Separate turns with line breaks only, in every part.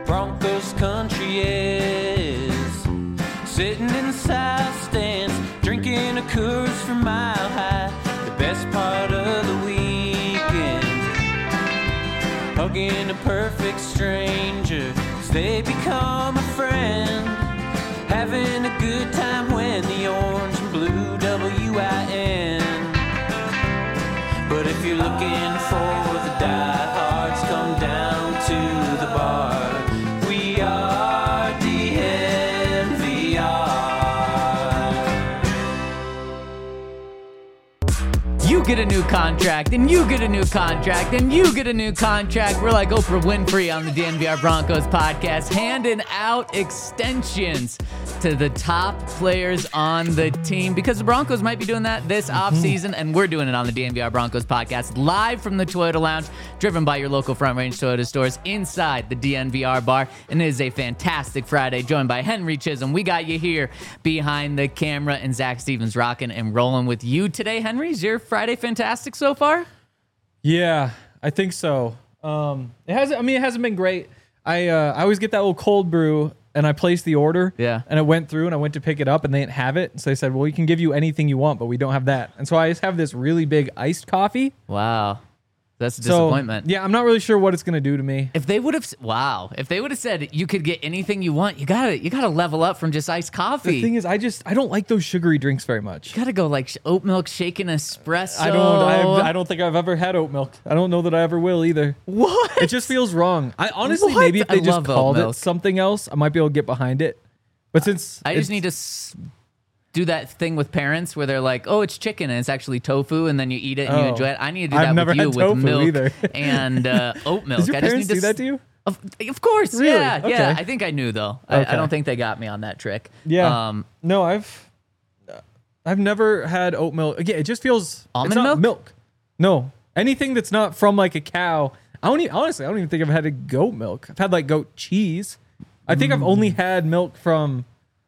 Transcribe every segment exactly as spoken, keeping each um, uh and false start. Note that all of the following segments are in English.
Broncos country is. Sitting in the south stands, drinking a Coors from Mile High. The best part of the weekend, hugging a perfect stranger, 'cause they become a friend. Having a good time when the orange and blue W I N. But if you're looking for the diehards, come down to the bar. We are D N V R.
You get a new contract, and you get a new contract, and you get a new contract. We're like Oprah Winfrey on the D N V R Broncos podcast, handing out extensions to the top players on the team, because the Broncos might be doing that this offseason, and we're doing it on the D N V R Broncos podcast, live from the Toyota Lounge, driven by your local Front Range Toyota stores inside the D N V R bar. And it is a fantastic Friday, joined by Henry Chisholm. We got you here behind the camera, and Zach Stevens rocking and rolling with you today. Henry, is your Friday fantastic so far?
Yeah, I think so. Um, it hasn't. I mean, it hasn't been great. I uh, I always get that little cold brew, and I placed the order.
Yeah.
And it went through, and I went to pick it up, and they didn't have it. So they said, "Well, we can give you anything you want, but we don't have that." And so I just have this really big iced coffee.
Wow. That's a
So,
disappointment.
yeah, I'm not really sure what it's gonna do to me.
If they would have, wow, if they would have said you could get anything you want, you gotta, you gotta level up from just iced coffee.
The thing is, I just I don't like those sugary drinks very much.
You gotta go like sh- oat milk shaken espresso.
I don't. I, I don't think I've ever had oat milk. I don't know that I ever will either.
What?
It just feels wrong. I honestly,
What?
maybe if they
I
just
love oat
called it
milk.
something else, I might be able to get behind it. But since
I just
it's-
need to s- do that thing with parents where they're like, "Oh, it's chicken and it's actually tofu," and then you eat it and you
Oh.
enjoy it. I need to do
I've
that
never
with you
had
with
tofu
milk
either.
and uh, oat milk.
Did your
I just
parents
need to
do that
s-
to you?
Of, of course,
Really?
yeah,
Okay.
yeah. I think I knew though. I, I
Okay.
don't think they got me on that trick.
Yeah.
Um,
no, I've I've never had oat milk. Again, it just feels
Almond
it's not
milk?
milk. No, anything that's not from like a cow. I don't even, honestly. I don't even think I've had a goat milk. I've had like goat cheese. I think I've
Mm.
only had milk from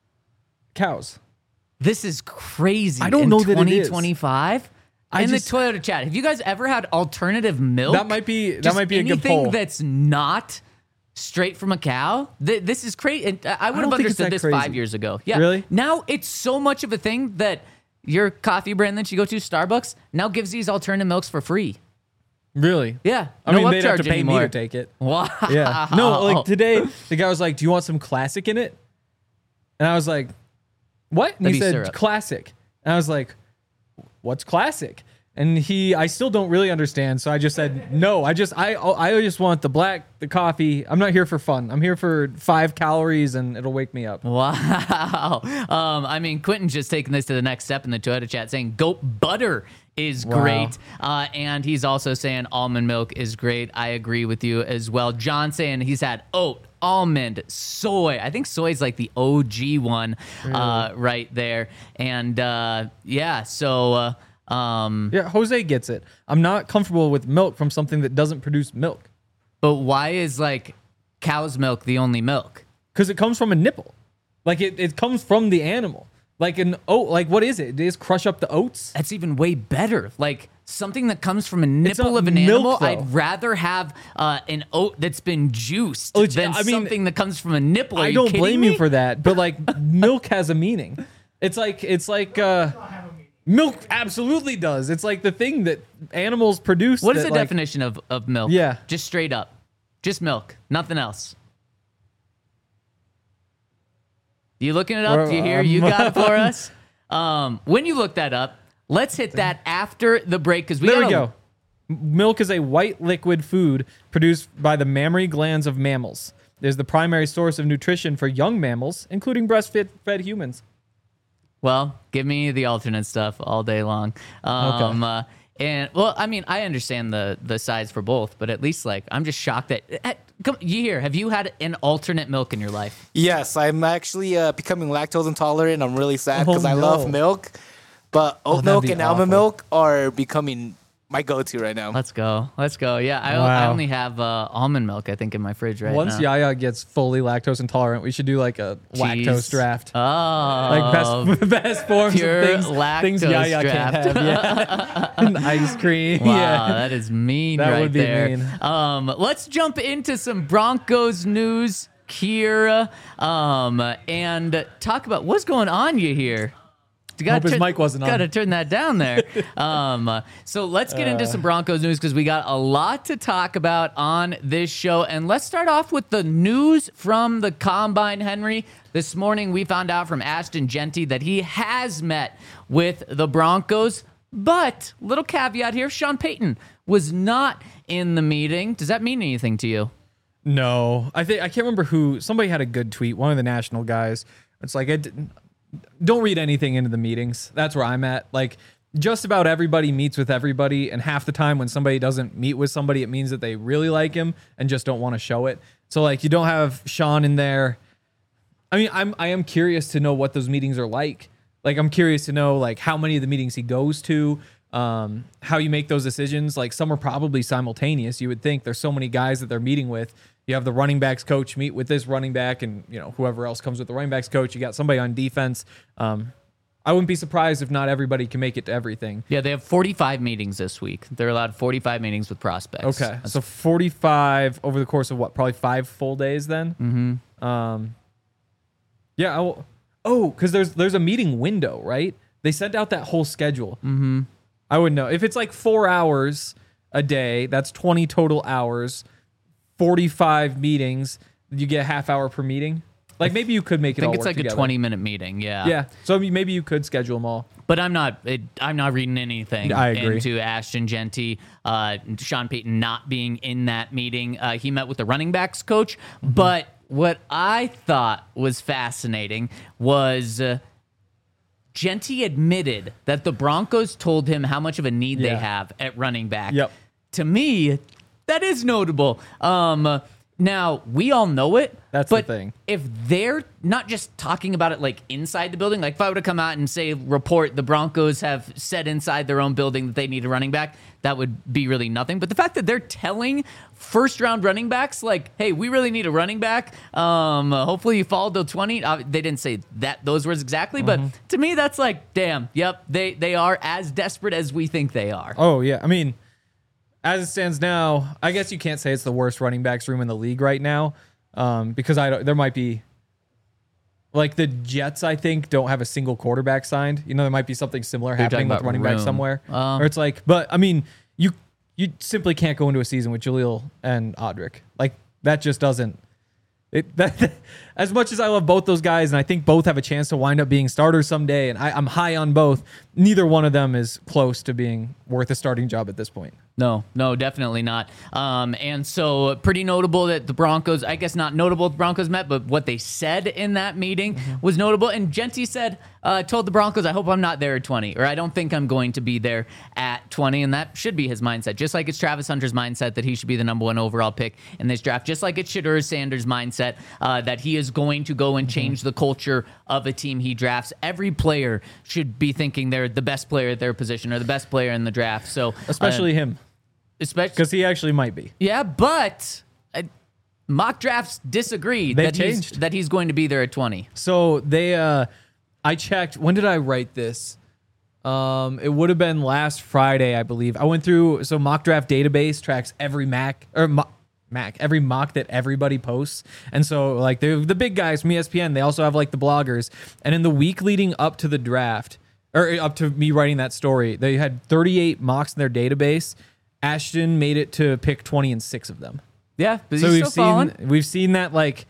cows.
This is crazy.
I don't
in
know that it is.
twenty twenty-five.
I
In
just-
the Toyota chat, have you guys ever had alternative milk?
That might be that
Just
might be a good
anything
poll.
that's not straight from a cow. Th- this is crazy. And I I would
don't
have
think it's
understood
that
this
crazy.
five years ago. Yeah.
Really?
Now it's so much of a thing that your coffee brand that you go to, Starbucks, now gives these alternative milks for free.
Really?
Yeah.
I
no
mean, they'd have
upcharge
to pay
anymore.
me to take it.
Wow.
Yeah. No, like today, the guy was like, "Do you want some classic in it?" And I was like, "What?" And
That'd
he
be
said,
syrup.
"Classic." And I was like, "What's classic?" And he, I still don't really understand. So I just said, "No, I just, I, I just want the black, the coffee. I'm not here for fun. I'm here for five calories, and it'll wake me up."
Wow. Um, I mean, Quentin's just taking this to the next step in the Toyota chat, saying goat butter is
Wow.
great. Uh, and he's also saying almond milk is great. I agree with you as well. John saying he's had oat, almond, soy. I think soy is like the O G one uh, right there. And uh, yeah, so... Uh, um,
Yeah, Jose gets it. I'm not comfortable with milk from something that doesn't produce milk
but why is like cow's milk the only milk?
because it comes from a nipple. Like it, it comes from the animal. Like an oat. Like what is it? They just crush up the oats.
That's even way better. Like something that comes from a
It's
nipple
not
of an
milk,
animal,
though.
I'd rather have uh, an oat that's been juiced
Which,
than
I mean,
something that comes from a nipple. Are
I
you
don't
kidding
blame
me?
you for that, but like milk has a meaning. It's like it's like uh, milk absolutely does. It's like the thing that animals produce.
What is
that,
the
like,
definition of, of milk?
Yeah.
Just straight up. Just milk. Nothing else. You looking it up? Do you hear? You got it for us? Um, when you look that up, let's hit that after the break because we
There
gotta,
we go. Milk is a white liquid food produced by the mammary glands of mammals. It is the primary source of nutrition for young mammals, including breastfed fed humans.
Well, give me the alternate stuff all day long. Um, uh, and well, I mean, I understand the the size for both, but at least like I'm just shocked that. eh, Come, you here? Have you had an alternate milk in your life?
Yes, I'm actually uh, becoming lactose intolerant. I'm really sad
Oh,
because I
no.
love milk, but oat
that'd
milk
be
and almond
awful.
milk are becoming my go-to right now.
Let's go. Let's go. Yeah, I,
Wow.
I only have uh, almond milk, I think, in my fridge right
Once
now.
Yaya gets fully lactose intolerant, we should do like a
Jeez.
lactose draft.
Oh.
Like best best forms
Pure
of things,
lactose
things Yaya
draft.
can't have. Yeah. And ice cream.
Wow,
Yeah.
that is mean
That
right
would be
there.
mean.
Um, let's jump into some Broncos news here um, and talk about what's going on you here. You gotta
Hope his
turn-
mic wasn't on.
Gotta turn that down there. um, uh, so let's get into some Broncos news because we got a lot to talk about on this show. And let's start off with the news from the Combine, Henry. This morning we found out from Ashton Jeanty that he has met with the Broncos. But, little caveat here, Sean Payton was not in the meeting. Does that mean anything to you?
No, I think I can't remember who. Somebody had a good tweet. One of the national guys. It's like I didn't, don't read anything into the meetings. That's where I'm at. Like just about everybody meets with everybody, and half the time when somebody doesn't meet with somebody, it means that they really like him and just don't want to show it. So like you don't have Sean in there. I mean, I'm I am curious to know what those meetings are like. Like I'm curious to know like how many of the meetings he goes to. Um, how you make those decisions. Like some are probably simultaneous. You would think there's so many guys that they're meeting with. You have the running backs coach meet with this running back and, you know, whoever else comes with the running backs coach. You got somebody on defense. Um, I wouldn't be surprised if not everybody can make it to everything.
Yeah, they have forty-five meetings this week. They're allowed forty-five meetings with prospects.
Okay. So forty-five over the course of what? Probably five full days then? Mm-hmm. Um, yeah. I will, oh, because there's, there's a meeting window, right? They sent out that whole schedule. Mm-hmm. I wouldn't know. If it's like four hours a day, that's twenty total hours, forty-five meetings, you get a half hour per meeting. Like maybe you could make it
I
all
think it's
work
like
together.
a twenty-minute meeting, yeah.
Yeah. So I mean, maybe you could schedule them all.
But I'm not. It, I'm not reading anything
I agree.
into Ashton Jeanty, uh, Sean Payton not being in that meeting. Uh, he met with the running backs coach.
Mm-hmm.
But what I thought was fascinating was uh, Jeanty admitted that the Broncos told him how much of a need they
Yeah.
have at running back.
Yep.
To me, that is notable. Um, now we all know it.
That's the
but
thing.
If they're not just talking about it like inside the building, like if I were to come out and say, report the Broncos have said inside their own building that they need a running back, that would be really nothing. But the fact that they're telling first round running backs, like, hey, we really need a running back. Um, hopefully you fall till twenty. Uh, they didn't say that those words exactly, but to me, that's like, damn, yep, they, they are as desperate as we think they are.
Oh, yeah. I mean, as it stands now, I guess you can't say it's the worst running backs room in the league right now. Um, because I don't, there might be like the Jets, I think, don't have a single quarterback signed. You know, there might be something similar
You're
happening
talking
with
about
running back
room.
somewhere.
Um,
or it's like, but I mean, you you simply can't go into a season with Jaleel and Audric. Like that just doesn't. It, that, as much as I love both those guys, and I think both have a chance to wind up being starters someday, and I, I'm high on both, neither one of them is close to being worth a starting job at this point.
No, no, definitely not. Um, and so pretty notable that the Broncos, I guess not notable the Broncos met, but what they said in that meeting was notable. And Jeanty said, uh, told the Broncos, I hope I'm not there at twenty, or I don't think I'm going to be there at twenty. And that should be his mindset, just like it's Travis Hunter's mindset that he should be the number one overall pick in this draft, just like it's Shedeur Sanders' mindset uh, that he is going to go and change the culture of a team he drafts. Every player should be thinking they're the best player at their position or the best player in the draft. So
Especially
uh,
him.
Especially
Because he actually might be.
yeah, but uh, mock drafts disagree
They
that he's,
changed.
that he's going to be there at twenty.
So they, uh, I checked. When did I write this? Um, it would have been last Friday, I believe. I went through. So mock draft database tracks every Mac or mo- Mac, every mock that everybody posts. And so like the the big guys from E S P N, they also have like the bloggers. And in the week leading up to the draft, or up to me writing that story, they had thirty-eight mocks in their database. Ashton made it to pick twenty and six of them.
Yeah, but
So
he's
we've
still falling.
seen we've seen that like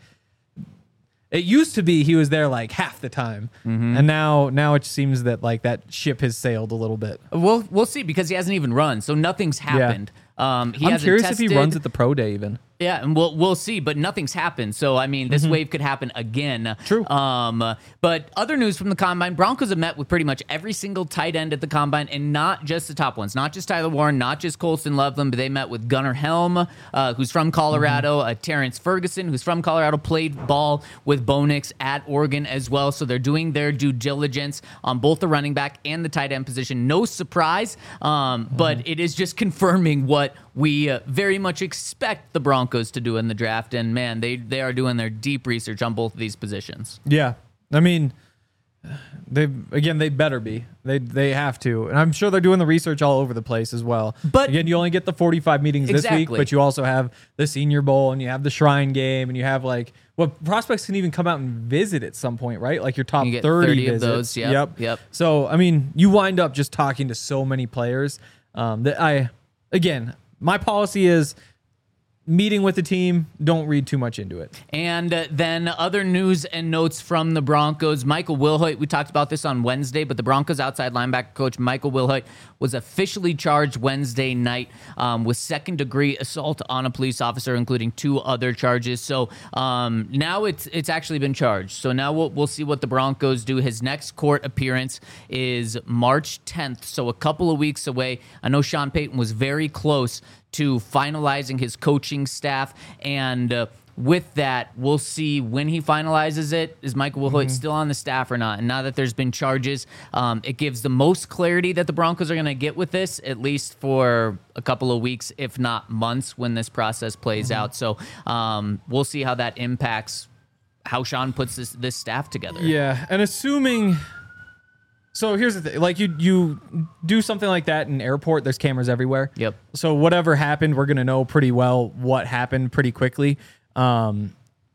it used to be he was there like half the time, and now now it seems that like that ship has sailed a little bit.
We'll we'll see because he hasn't even run, so nothing's happened. Um, he
I'm
hasn't
curious if he
tested.
runs at the pro day even.
Yeah, and we'll we'll see, but nothing's happened. So I mean, this mm-hmm. wave could happen again.
True.
Um, but other news from the combine: Broncos have met with pretty much every single tight end at the combine, and not just the top ones, not just Tyler Warren, not just Colston Loveland, but they met with Gunnar Helm, uh, who's from Colorado, mm-hmm. uh, Terrence Ferguson, who's from Colorado, played ball with Bo Nix at Oregon as well. So they're doing their due diligence on both the running back and the tight end position. No surprise, um, mm-hmm. but it is just confirming what we uh, very much expect the Broncos to do in the draft. And man, they, they are doing their deep research on both of these positions.
Yeah. I mean, they again, they better be. They they have to. And I'm sure they're doing the research all over the place as well.
But
again, you only get the forty-five meetings
exactly.
this week, but you also have the Senior Bowl and you have the Shrine Game and you have like, well, prospects can even come out and visit at some point, right? Like your top
you get
thirty,
thirty
visits.
of those. Yep,
yep.
Yep.
So, I mean, you wind up just talking to so many players um, that I, again, my policy is meeting with the team, don't read too much into it.
And uh, then other news and notes from the Broncos. Michael Wilhoit, we talked about this on Wednesday, but the Broncos outside linebacker coach Michael Wilhoit was officially charged Wednesday night um, with second-degree assault on a police officer, including two other charges. So um, now it's it's actually been charged. So now we'll, we'll see what the Broncos do. His next court appearance is March tenth, so a couple of weeks away. I know Sean Payton was very close to finalizing his coaching staff, and uh, with that, we'll see when he finalizes it. Is Michael Wilhoit mm-hmm. still on the staff or not? And now that there's been charges, um, it gives the most clarity that the Broncos are going to get with this, at least for a couple of weeks, if not months, when this process plays mm-hmm. out. So um, we'll see how that impacts how Sean puts this this staff together.
Yeah, and assuming... So here's the thing, like you you do something like that in an airport, there's cameras everywhere.
Yep.
So whatever happened, we're going to know pretty well what happened pretty quickly. Um,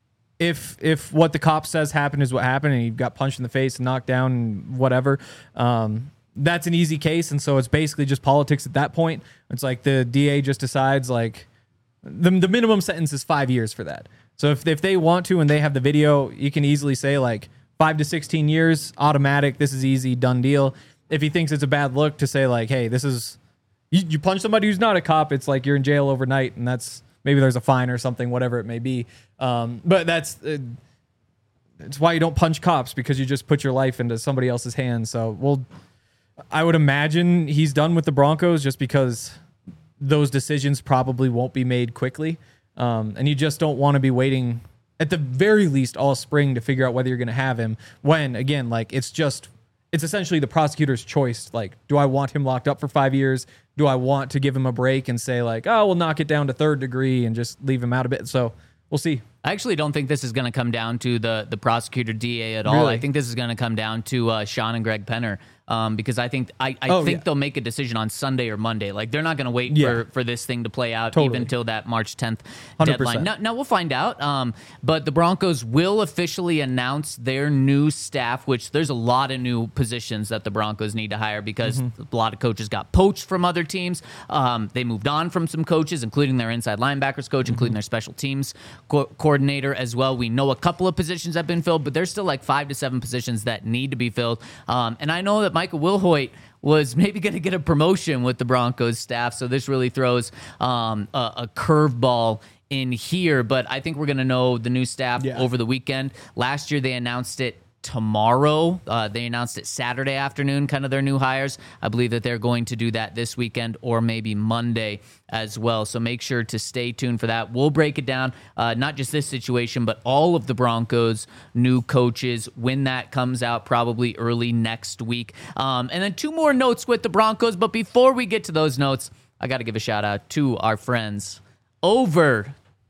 if if what the cop says happened is what happened and he got punched in the face and knocked down and whatever, um, that's an easy case. And so it's basically just politics at that point. It's like the D A just decides like the, the minimum sentence is five years for that. So if, if they want to and they have the video, you can easily say like, Five to sixteen years, automatic. This is easy, done deal. If he thinks it's a bad look, to say like, "Hey, this is you, you punch somebody who's not a cop. It's like you're in jail overnight, and that's maybe there's a fine or something, whatever it may be." Um, but that's uh, it's why you don't punch cops, because you just put your life into somebody else's hands. So, well, I would imagine he's done with the Broncos just because those decisions probably won't be made quickly, um, and you just don't want to be waiting. At the very least, all spring to figure out whether you're going to have him. When, again, like it's just, it's essentially the prosecutor's choice. Like, do I want him locked up for five years? Do I want to give him a break and say like, oh, we'll knock it down to third degree and just leave him out a bit? So we'll see.
I actually don't think this is going to come down to the the prosecutor D A at all.
Really?
I think this is going to come down to uh, Sean and Greg Penner. Um, because I think I, I
oh,
think
yeah.
they'll make a decision on Sunday or Monday. Like they're not going to wait
yeah.
for, for this thing to play out
totally.
even until that March tenth
one hundred percent.
deadline. Now, now we'll find out. Um, but the Broncos will officially announce their new staff, which there's a lot of new positions that the Broncos need to hire because mm-hmm. a lot of coaches got poached from other teams. Um, they moved on from some coaches, including their inside linebackers coach, mm-hmm. including their special teams co- coordinator as well. We know a couple of positions have been filled, but there's still like five to seven positions that need to be filled. Um, and I know that Michael Wilhoit was maybe going to get a promotion with the Broncos staff, so this really throws um, a, a curveball in here. But I think we're going to know the new staff
yeah.
over the weekend. Last year they announced it tomorrow. Uh, they announced it Saturday afternoon, kind of their new hires. I believe that they're going to do that this weekend or maybe Monday as well. So make sure to stay tuned for that. We'll break it down, uh, not just this situation, but all of the Broncos' new coaches when that comes out, probably early next week. Um, and then two more notes with the Broncos. But before we get to those notes, I got to give a shout out to our friends over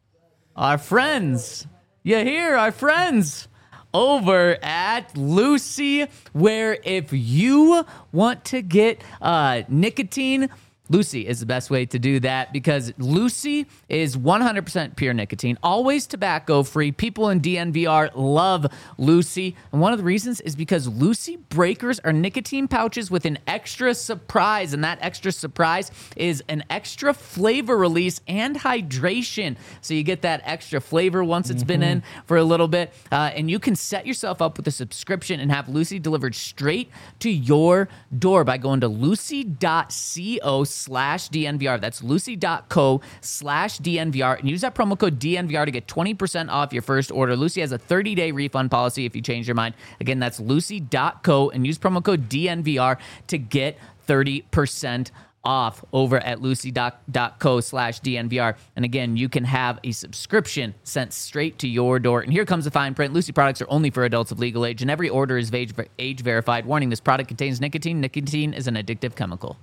our friends. You hear our friends over at Lucy, where if you want to get uh, nicotine, Lucy is the best way to do that because Lucy is one hundred percent pure nicotine, always tobacco-free. People in D N V R love Lucy, and one of the reasons is because Lucy Breakers are nicotine pouches with an extra surprise, and that extra surprise is an extra flavor release and hydration. So you get that extra flavor once it's mm-hmm. been in for a little bit, uh, and you can set yourself up with a subscription and have Lucy delivered straight to your door by going to lucy dot co slash D N V R. That's lucy.co slash D N V R. And use that promo code D N V R to get twenty percent off your first order. Lucy has a thirty-day refund policy if you change your mind. Again, that's lucy.co and use promo code D N V R to get thirty percent off over at lucy.co slash DNVR. And again, you can have a subscription sent straight to your door. And here comes the fine print. Lucy products are only for adults of legal age, and every order is age, age verified. Warning, this product contains nicotine. Nicotine is an addictive chemical.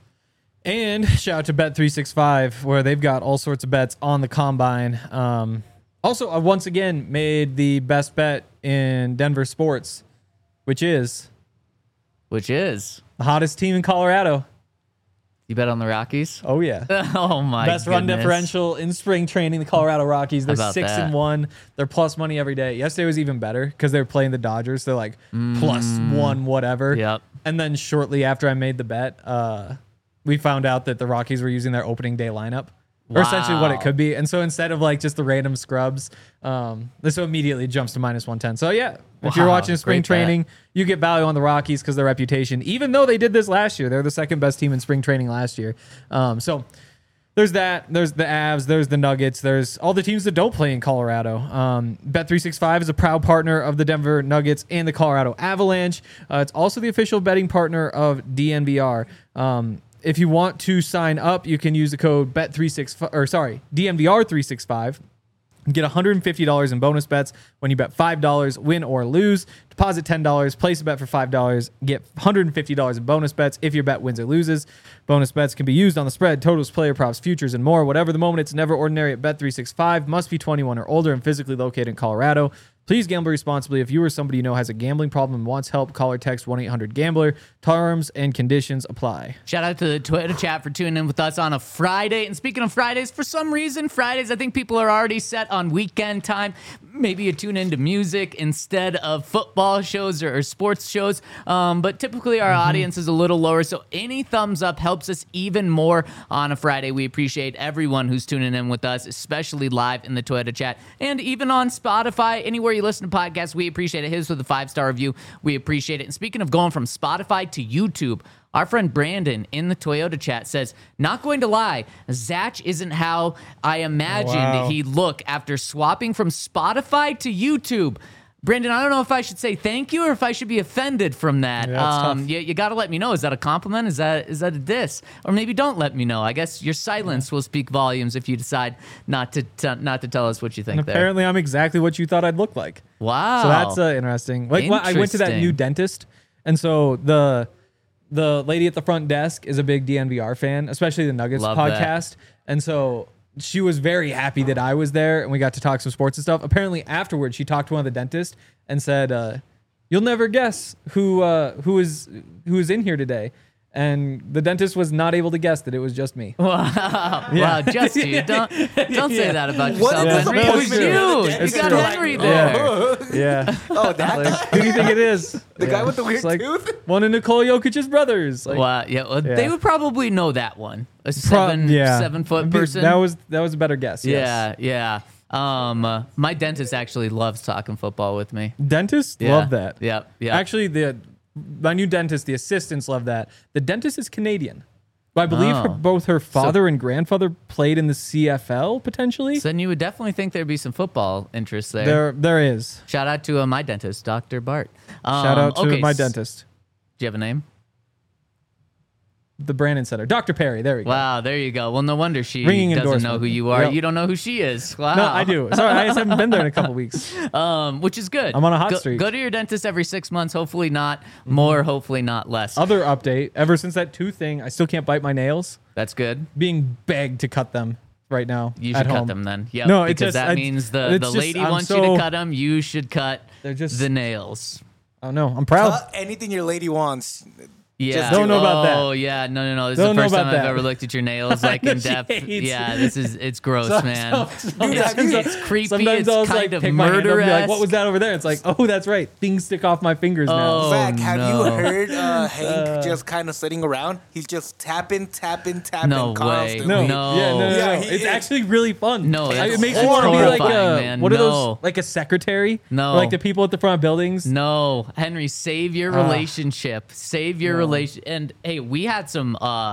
And shout out to Bet three sixty-five, where they've got all sorts of bets on the combine. Um, also, I once again made the best bet in Denver sports, which is
Which is?
the hottest team in Colorado.
You bet on the Rockies?
Oh, yeah.
Oh, my
Best run
goodness.
differential in spring training, the Colorado Rockies. They're
About
six
that?
and one. They're plus money every day. Yesterday was even better because they were playing the Dodgers. They're like plus one whatever.
Yep.
And then shortly after I made the bet, uh, we found out that the Rockies were using their opening day lineup. Or essentially what it
Wow.
could be. And so instead of like just the random scrubs, um, this immediately jumps to minus one ten. So yeah, if you're
Wow,
watching spring
great bet.
training, you get value on the Rockies because their reputation, even though they did this last year, they're the second best team in spring training last year. Um, so there's that. There's the Avs. There's the Nuggets. There's all the teams that don't play in Colorado. Um, Bet three sixty-five is a proud partner of the Denver Nuggets and the Colorado Avalanche. Uh, it's also the official betting partner of D N V R. Um, If you want to sign up, you can use the code bet three sixty-five or sorry, D N V R three sixty-five. Get one hundred fifty dollars in bonus bets when you bet five dollars, win or lose. Deposit ten dollars, place a bet for five dollars, get one hundred fifty dollars in bonus bets if your bet wins or loses. Bonus bets can be used on the spread, totals, player props, futures, and more. Whatever the moment, it's never ordinary at Bet three sixty-five. Must be twenty-one or older and physically located in Colorado. Please gamble responsibly. If you or somebody you know has a gambling problem and wants help, call or text one eight hundred gambler. Terms and conditions apply.
Shout out to the Twitter chat for tuning in with us on a Friday. And speaking of Fridays, for some reason, Fridays, I think people are already set on weekend time. Maybe you tune into music instead of football shows or, or sports shows. Um, but typically our
Mm-hmm.
audience is a little lower. So any thumbs up helps us even more on a Friday. We appreciate everyone who's tuning in with us, especially live in the Twitter chat and even on Spotify. Anywhere you listen to podcasts, we appreciate it. His with a five-star review. We appreciate it. And speaking of going from Spotify to YouTube, our friend Brandon in the Toyota chat says, not going to lie, Zach isn't how I imagined
Wow.
he'd look after swapping from Spotify to YouTube. Brandon, I don't know if I should say thank you or if I should be offended from that.
Yeah, it's
um,
tough.
you you got to let me know. Is that a compliment? Is that is that a diss? Or maybe don't let me know. I guess your silence will speak volumes if you decide not to t- not to tell us what you think
And
there.
apparently, I'm exactly what you thought I'd look like.
Wow.
So that's uh, interesting. Like when I went to that
Interesting.
new dentist, and so the the lady at the front desk is a big D N V R fan, especially the Nuggets
Love that.
podcast, and so she was very happy that I was there and we got to talk some sports and stuff. Apparently, afterwards, she talked to one of the dentists and said, uh, "You'll never guess who uh, who is who is in here today." And the dentist was not able to guess that it was just me.
Wow, wow, just you. Don't don't say
Yeah.
that about
What
yourself,
is
Henry.
the
It was
disappointment
you.
of the
You
dentist?
got
You're
Henry
like,
there.
oh.
Yeah.
Oh, that
Like, who do you think it is?
The guy with the weird
It's like
tooth?
one of Nikola Jokic's brothers. Like,
Wow, yeah, well,
Yeah.
they would probably know that one. A
pro-
seven
yeah.
seven foot
I mean,
person.
That was that was a better guess.
yeah, yeah. Um, uh, my dentist actually loves talking football with me.
Yes. Dentists
Yeah.
love that.
Yep, yep.
Actually, the my new dentist, the assistants love that. The dentist is Canadian. But I believe her,
Oh.
both her father and grandfather played in the C F L potentially.
So then you would definitely think there'd be some football interest there.
there, there is.
Shout out to uh, my dentist, Doctor Bart. Um,
Shout out to
okay,
my
s-
dentist,
Do you have a name?
the Brandon Center, Doctor Perry. There we go.
Wow, there you go. Well, no wonder she
Ringing
doesn't know
endorsement.
who you are.
Yep.
You don't know who she is. Wow.
No, I do. Sorry, I just haven't been there in a couple weeks.
Um, which is good.
I'm on a hot
go,
streak.
Go to your dentist every six months. Hopefully not more. Hopefully not less.
Other update: ever since that tooth thing, I still can't bite my nails.
That's good.
Being begged to cut them right now.
You
at
should cut
home.
them then. Yeah,
No, it's
because
just-
that
I-
means the,
it's
the
just-
lady
I'm
wants you
so-
to cut them. You should cut
They're just-
the nails.
Oh no, I'm proud.
Cut anything your lady wants.
Yeah.
Don't know about that.
Oh yeah, no, no, no. This
Don't
is
know
the first
about
time I've
that.
ever looked at your nails like
know
in
she
depth.
hates
Yeah,
it.
this is it's gross,
So-
man.
so-
it's,
sometimes
it's
I'll-
creepy.
Sometimes
It's
I'll
kind
like
of
take my hand up and be
murderous.
like, "What was that over there?" It's like, "Oh, that's right. Things stick off my fingers now."
Oh,
Zach, have
no.
you heard uh, Hank just kind of sitting around? He's just tapping, tapping, tapping
No way.
constantly.
No,
No.
yeah, no, no,
Yeah,
no.
he
It's
is.
actually really fun.
No,
I-
that's
it makes me want to be like
horrifying,
a
man.
what are
No.
those like a secretary?
No.
Or like the people at the front of buildings.
No, Henry, save your
Ah.
relationship. Save your
No.
relation. And hey, we had some uh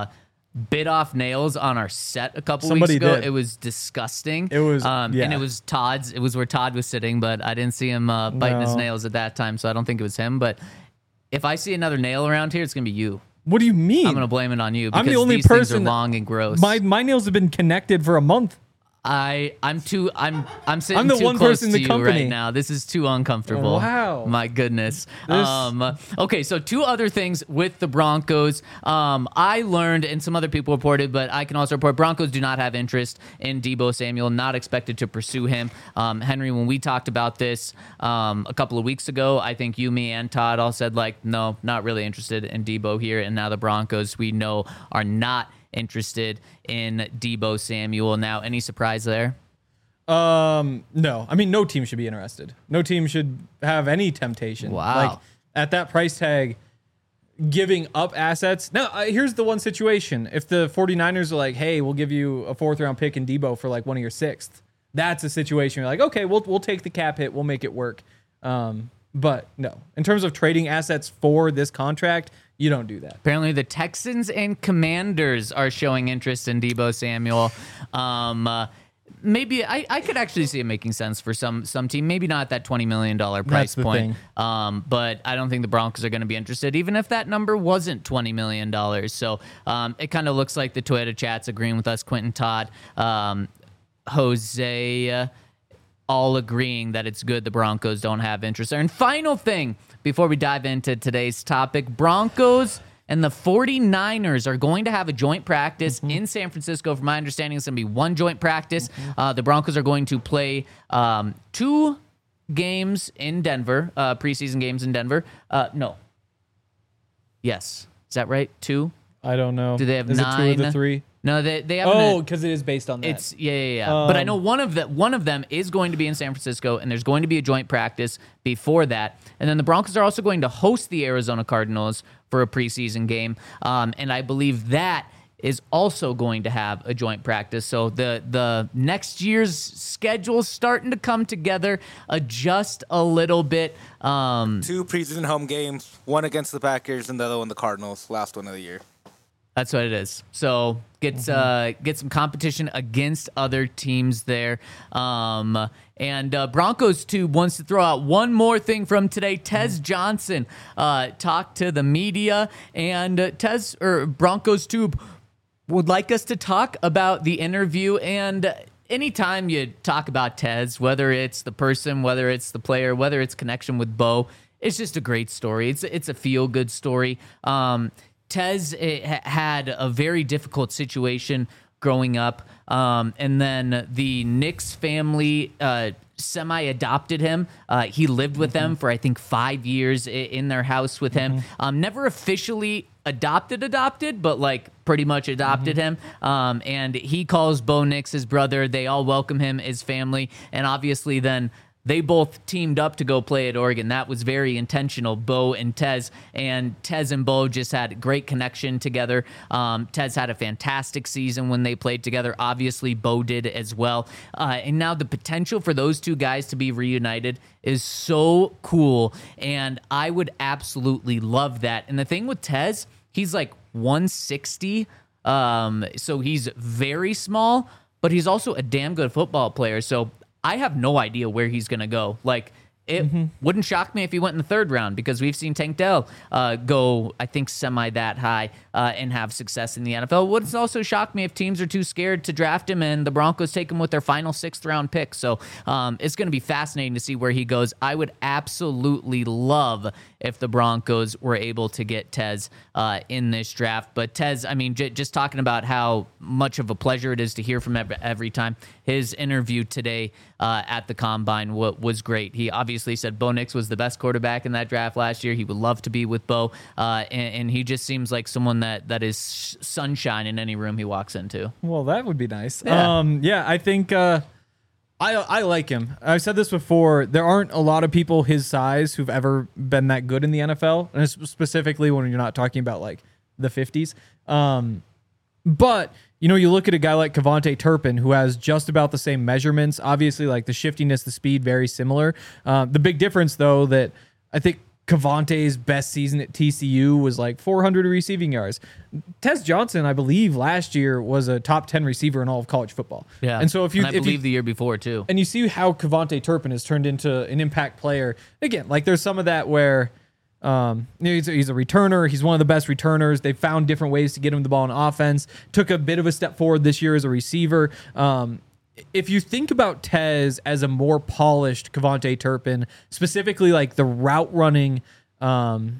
bit off nails on our set a couple
Somebody
weeks ago.
did.
It was disgusting.
It was-
um,
yeah.
and it was Todd's. It was where Todd was sitting, but I didn't see him uh, biting his
No.
nails at that time, so I don't think it was him. But if I see another nail around here, it's gonna be you.
What do you mean?
I'm gonna blame it on you because
I'm the only
these things are
person that-
long and gross.
my my nails have been connected for a month.
I I'm too I'm I'm sitting
I'm the
too
one
close
person in
to
the
you
company.
right now. This is too uncomfortable.
Wow.
My goodness.
This-
Um okay, so two other things with the Broncos. Um I learned and some other people reported, but I can also report Broncos do not have interest in Deebo Samuel, not expected to pursue him. Um Henry, when we talked about this um a couple of weeks ago, I think you, me, and Todd all said like, no, not really interested in Deebo here. And now the Broncos we know are not interested in Deebo Samuel. Now, any surprise there?
Um, no. I mean, no team should be interested. No team should have any temptation.
Wow.
Like at that price tag, giving up assets. Now, uh, here's the one situation. If the 49ers are like, hey, we'll give you a fourth round pick in Deebo for like one of your sixth, that's a situation you're like, okay, we'll we'll take the cap hit. We'll make it work. Um, but no, in terms of trading assets for this contract, you don't do that.
Apparently, the Texans and Commanders are showing interest in Deebo Samuel. Um, uh, maybe I, I could actually see it making sense for some some team. Maybe not that twenty million dollars price
That's the
point.
thing.
Um, but I don't think the Broncos are going to be interested, even if that number wasn't twenty million dollars. So um, it kind of looks like the Toyota chat's agreeing with us, Quentin Todd, um, Jose, uh, all agreeing that it's good the Broncos don't have interest there. And final thing, before we dive into today's topic, Broncos and the 49ers are going to have a joint practice
Mm-hmm.
in San Francisco. From my understanding, it's going to be one joint practice. Uh, the Broncos are going to play um, two games in Denver, uh, preseason games in Denver. Uh, no. Yes. Is that right? Two?
I don't know.
Do they have
Is
nine?
it two of the three?
No, they, they have
Oh, because it is based on that.
It's yeah, yeah, yeah. but I
Um,
know one of the one of them is going to be in San Francisco, and there's going to be a joint practice before that. And then the Broncos are also going to host the Arizona Cardinals for a preseason game, um, and I believe that is also going to have a joint practice. So the the next year's schedule's starting to come together, adjust a little bit. Um,
Two preseason home games, one against the Packers and the other one the Cardinals, last one of the year.
That's what it is. So get uh, get some competition against other teams there. Um, and uh, Broncos Tube wants to throw out one more thing from today. Tez Johnson uh, talked to the media, and uh, Tez or Broncos Tube would like us to talk about the interview. And anytime you talk about Tez, whether it's the person, whether it's the player, whether it's connection with Bo, it's just a great story. It's it's a feel good story. Um, Tez eh, ha- had a very difficult situation growing up, um, and then the Knicks family uh, semi-adopted him. Uh, he lived with them for, I think, five years i- in their house with him. Um, never officially adopted, adopted, but like pretty much adopted him. Um, and he calls Bo Nix his brother. They all welcome him, his family, and obviously then they both teamed up to go play at Oregon. That was very intentional, Bo and Tez. And Tez and Bo just had a great connection together. Um, Tez had a fantastic season when they played together. Obviously, Bo did as well. Uh, and now the potential for those two guys to be reunited is so cool. And I would absolutely love that. And the thing with Tez, he's like one sixty. Um, so he's very small, but he's also a damn good football player. So I have no idea where he's going to go. Like, it wouldn't shock me if he went in the third round because we've seen Tank Dell uh, go, I think, semi that high uh, and have success in the N F L. Wouldn't also shock me if teams are too scared to draft him and the Broncos take him with their final sixth round pick. So um, it's going to be fascinating to see where he goes. I would absolutely love if the Broncos were able to get Tez uh, in this draft. But Tez, I mean, j- just talking about how much of a pleasure it is to hear from every, every time. His interview today uh, at the Combine w- was great. He obviously said Bo Nix was the best quarterback in that draft last year. He would love to be with Bo, uh, and, and he just seems like someone that, that is sunshine in any room he walks into.
Well, that would be nice.
Yeah.
Um, yeah, I think uh, I I like him. I've said this before. There aren't a lot of people his size who've ever been that good in the N F L, and it's specifically when you're not talking about like the fifties. Um, but you know, you look at a guy like Kevontae Turpin, who has just about the same measurements. Obviously, like the shiftiness, the speed, very similar. Uh, the big difference, though, that I think Cavante's best season at T C U was like four hundred receiving yards. Tez Johnson, I believe, last year was a top ten receiver in all of college football.
Yeah,
and so if you,
and I
if
believe
you,
the year before too,
and you see how Cavante Turpin has turned into an impact player again. Like there's some of that where um, you know, he's, a, he's a returner. He's one of the best returners. They found different ways to get him the ball in offense. Took a bit of a step forward this year as a receiver. Um, If you think about Tez as a more polished Cavante Turpin, specifically like the route running, um,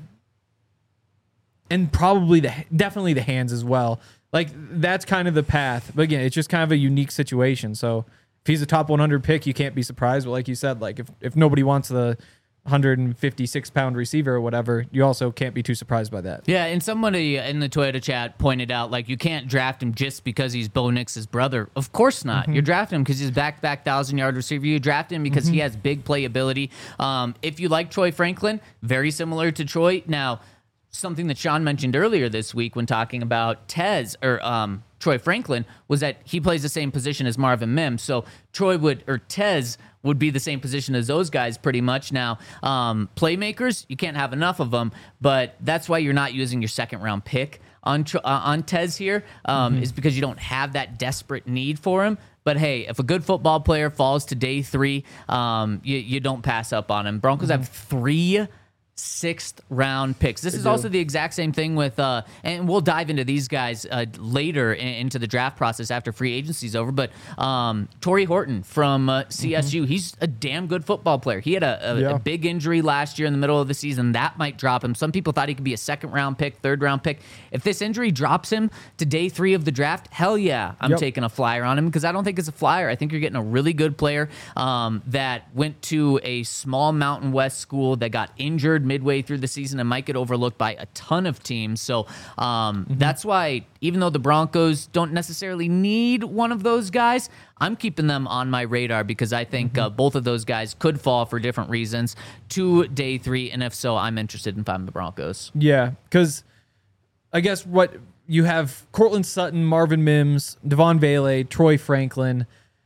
and probably the definitely the hands as well, like that's kind of the path. But again, it's just kind of a unique situation. So if he's a top one hundred pick, you can't be surprised. But like you said, like if if nobody wants the one hundred fifty-six pound receiver or whatever, you also can't be too surprised by that.
Yeah, and somebody in the Toyota chat pointed out, like, you can't draft him just because he's Bo Nix's brother. Of course not. Mm-hmm. You're drafting him because he's a back-to-back thousand-yard receiver. You draft him because mm-hmm. he has big playability. Um, if you like Troy Franklin, very similar to Troy. Now, something that Sean mentioned earlier this week when talking about Tez, or um, Troy Franklin, was that he plays the same position as Marvin Mims. So Troy would, or Tez would be the same position as those guys pretty much. Now, um, playmakers, you can't have enough of them, but that's why you're not using your second round pick on uh, on Tez here, um, mm-hmm. is because you don't have that desperate need for him. But hey, if a good football player falls to day three, um, you, you don't pass up on him. Broncos mm-hmm. have three sixth round picks. This
they
is
do.
also the exact same thing with, uh, and we'll dive into these guys uh, later in, into the draft process after free agency is over. But um, Torrey Horton from uh, C S U, mm-hmm. he's a damn good football player. He had a, a,
yeah.
a big injury last year in the middle of the season. That might drop him. Some people thought he could be a second round pick, third round pick. If this injury drops him to day three of the draft, hell yeah, I'm
yep.
taking a flyer on him, because I don't think it's a flyer. I think you're getting a really good player um, that went to a small Mountain West school that got injured midway through the season and might get overlooked by a ton of teams. So um, mm-hmm. that's why, even though the Broncos don't necessarily need one of those guys, I'm keeping them on my radar, because I think mm-hmm. uh, both of those guys could fall for different reasons to day three. And if so, I'm interested in finding the Broncos.
Yeah, because I guess what you have Cortland Sutton, Marvin Mims, Devon Vele, Troy Franklin,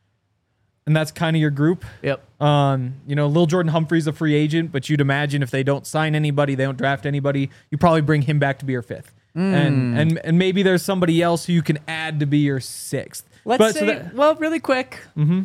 and that's kind of your group.
Yep.
Um, you know, Lil Jordan Humphrey's a free agent, but you'd imagine if they don't sign anybody, they don't draft anybody, you probably bring him back to be your fifth. Mm. And and and maybe there's somebody else who you can add to be your sixth.
Let's
but,
say,
so that,
well, really quick.
Mm-hmm.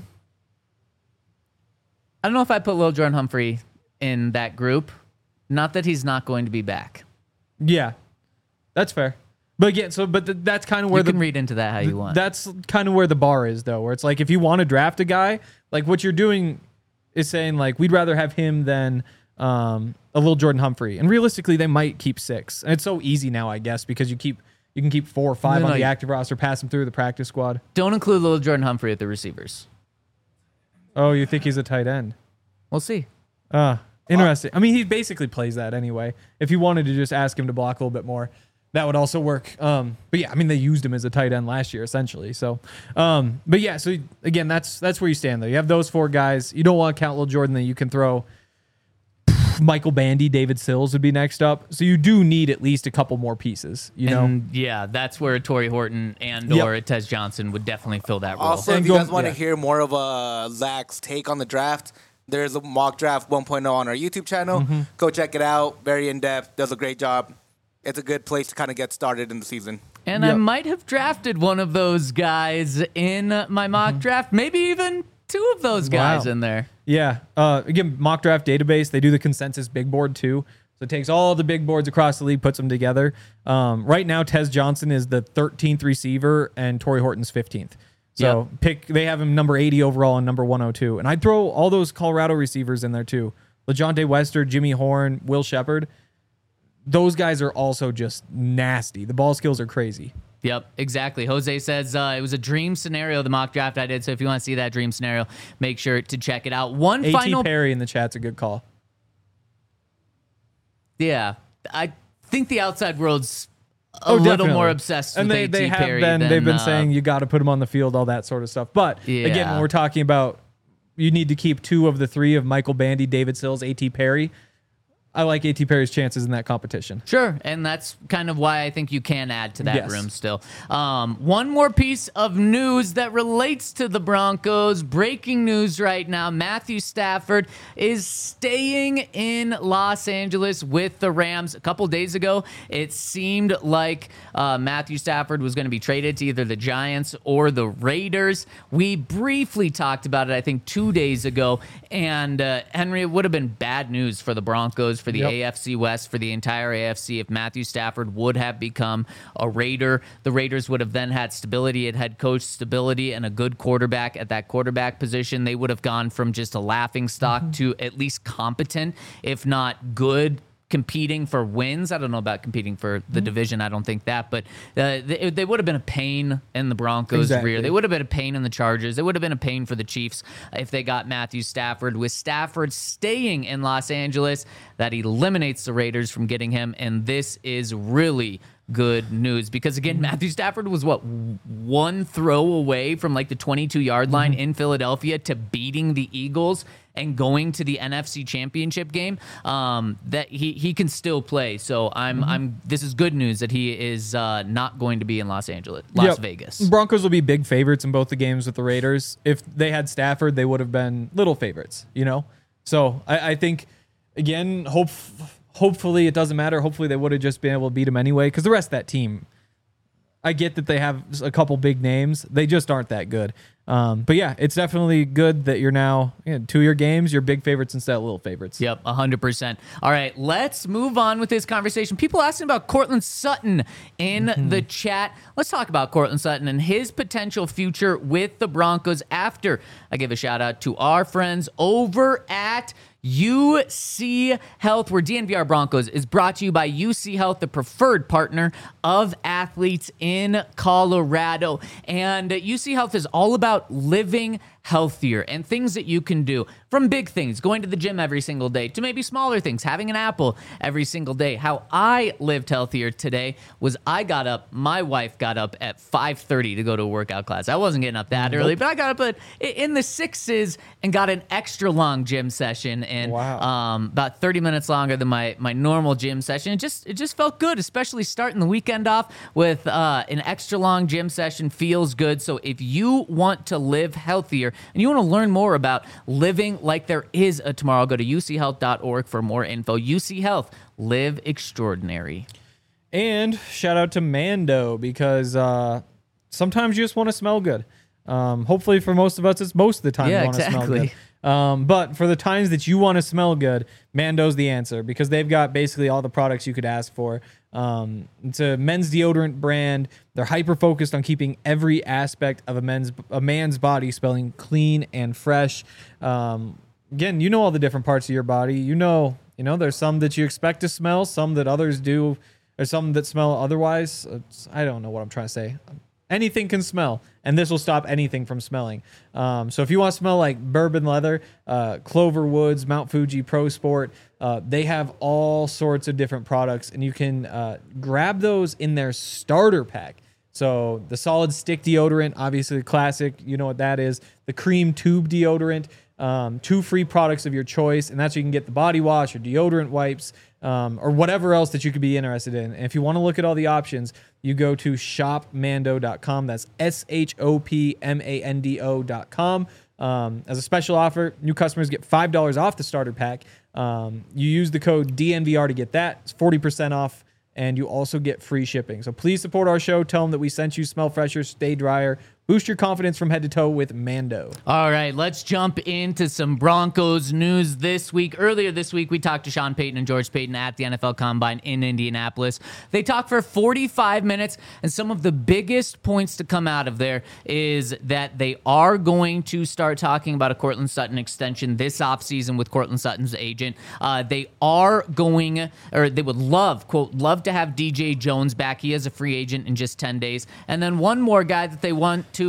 I don't know if I put Lil Jordan Humphrey in that group. Not that he's not going to be back.
Yeah, that's fair. But again, so but th- that's kind of where
you
the,
can read into that how you want.
That's kind of where the bar is, though, where it's like if you want to draft a guy, like what you're doing is saying like we'd rather have him than um, a little Jordan Humphrey, and realistically, they might keep six. And it's so easy now, I guess, because you keep you can keep four or five
no,
on
no,
the active roster, pass them through the practice squad.
Don't include Lil Jordan Humphrey at the receivers.
Oh, you think he's a tight end?
We'll see.
Uh, interesting. I mean, he basically plays that anyway. If you wanted to just ask him to block a little bit more, that would also work. Um, but yeah, I mean, they used him as a tight end last year, essentially. So, um, but yeah, so again, that's that's where you stand, though. You have those four guys. You don't want to count Lil Jordan, that you can throw Michael Bandy, David Sills would be next up. So you do need at least a couple more pieces, you know?
And yeah, that's where Torrey Horton and
Yep.
or Tez Johnson would definitely fill that role.
Also,
And
if you
go-
guys want to
yeah.
hear more of a Zach's take on the draft, there's a mock draft one point oh on our YouTube channel.
Mm-hmm.
Go check it out. Very in-depth. Does a great job. It's a good place to kind of get started in the season.
And I
Yep.
might have drafted one of those guys in my mock draft, maybe even two of those guys
Wow.
in there.
Yeah. Uh, again, mock draft database. They do the consensus big board too. So it takes all the big boards across the league, puts them together. Um, right now, Tez Johnson is the thirteenth receiver and Torrey Horton's fifteenth. So
Yep.
pick. They have him number eighty overall and number one oh two. And I'd throw all those Colorado receivers in there too. LeJonte Wester, Jimmy Horn, Will Shepard. Those guys are also just nasty. The ball skills are crazy.
Yep, exactly. Jose says uh, it was a dream scenario, the mock draft I did. So if you want to see that dream scenario, make sure to check it out. One
A T
final.
Perry in the chat's a good call.
Yeah, I think the outside world's a
Oh,
little
definitely.
more obsessed
and
with
they,
A T
they have
Perry
been
than,
they've been
uh,
saying you got to put him on the field, all that sort of stuff. But again,
Yeah.
when we're talking about you need to keep two of the three of Michael Bandy, David Sills, A T Perry, I like A T. Perry's chances in that competition.
Sure, and that's kind of why I think you can add to that
Yes.
room still. Um, one more piece of news that relates to the Broncos. Breaking news right now. Matthew Stafford is staying in Los Angeles with the Rams. A couple days ago, it seemed like uh, Matthew Stafford was going to be traded to either the Giants or the Raiders. We briefly talked about it, I think, two days ago. And, uh, Henry, it would have been bad news for the Broncos, for the
Yep.
A F C West, for the entire A F C if Matthew Stafford would have become a Raider. The Raiders would have then had stability at head coach, stability, and a good quarterback at that quarterback position. They would have gone from just a laughing stock
Mm-hmm.
to at least competent, if not good, competing for wins. I don't know about competing for the
Mm-hmm.
division. I don't think that, but uh, they, they would have been a pain in the Broncos'
Exactly.
rear. They would have been a pain in the Chargers. They would have been a pain for the Chiefs if they got Matthew Stafford. With Stafford staying in Los Angeles, that eliminates the Raiders from getting him, and this is really good news because, again, Matthew Stafford was, what, one throw away from like the twenty-two yard line in Philadelphia to beating the Eagles and going to the N F C Championship game. Um, that he he can still play. So I'm I'm this is good news that he is uh, not going to be in Los Angeles, Las
Yep.
Vegas.
Broncos will be big favorites in both the games with the Raiders. If they had Stafford, they would have been little favorites, you know? So I, I think, again, hope, hopefully it doesn't matter. Hopefully they would have just been able to beat him anyway because the rest of that team, I get that they have a couple big names. They just aren't that good. Um, but yeah, it's definitely good that you're now, you know, two-year games, you're big favorites instead of little favorites.
Yep, one hundred percent. All right, let's move on with this conversation. People asking about Cortland Sutton in
Mm-hmm.
the chat. Let's talk about Cortland Sutton and his potential future with the Broncos after I give a shout out to our friends over at U C Health, where D N V R Broncos is brought to you by U C Health, the preferred partner of athletes in Colorado. And U C Health is all about living healthier and things that you can do, from big things, going to the gym every single day, to maybe smaller things, having an apple every single day. How I lived healthier today was I got up, my wife got up at five thirty to go to a workout class. I wasn't getting up that early, but I got up at, in the sixes and got an extra long gym session, and
Wow.
um, about thirty minutes longer than my, my normal gym session. It just it just felt good, especially starting the weekend off with uh, an extra long gym session. Feels good. So if you want to live healthier and you want to learn more about living like there is a tomorrow, go to U C health dot org for more info. U C Health, live extraordinary.
And shout out to Mando because uh, sometimes you just want to smell good. Um, hopefully for most of us, it's most of the time
Yeah,
you want to smell
exactly.
good. Um, but for the times that you want to smell good, Mando's the answer because they've got basically all the products you could ask for. Um, it's a men's deodorant brand. They're hyper focused on keeping every aspect of a men's a man's body smelling clean and fresh. Um, again, you know all the different parts of your body. You know, you know, there's some that you expect to smell, some that others do, or some that smell otherwise. It's, I don't know what I'm trying to say. Anything can smell, and this will stop anything from smelling. Um, so if you want to smell like bourbon leather, uh, Clover Woods, Mount Fuji, Pro Sport, uh, they have all sorts of different products, and you can uh, grab those in their starter pack. So the solid stick deodorant, obviously the classic, you know what that is. The cream tube deodorant, um, two free products of your choice, and that's where you can get the body wash or deodorant wipes, um, or whatever else that you could be interested in. And if you want to look at all the options, you go to shop mando dot com. That's S H O P M A N D O dot com. Um, as a special offer, new customers get five dollars off the starter pack. Um, you use the code D N V R to get that. It's forty percent off, and you also get free shipping. So please support our show. Tell them that we sent you. Smell fresher, stay drier. Boost your confidence from head to toe with Mando.
All right, let's jump into some Broncos news this week. Earlier this week, we talked to Sean Payton and George Payton at the N F L Combine in Indianapolis. They talked for forty-five minutes, and some of the biggest points to come out of there is that they are going to start talking about a Cortland Sutton extension this offseason with Cortland Sutton's agent. Uh, they are going, or they would love, quote, love to have D J Jones back. He is a free agent in just ten days. And then one more guy that they want to to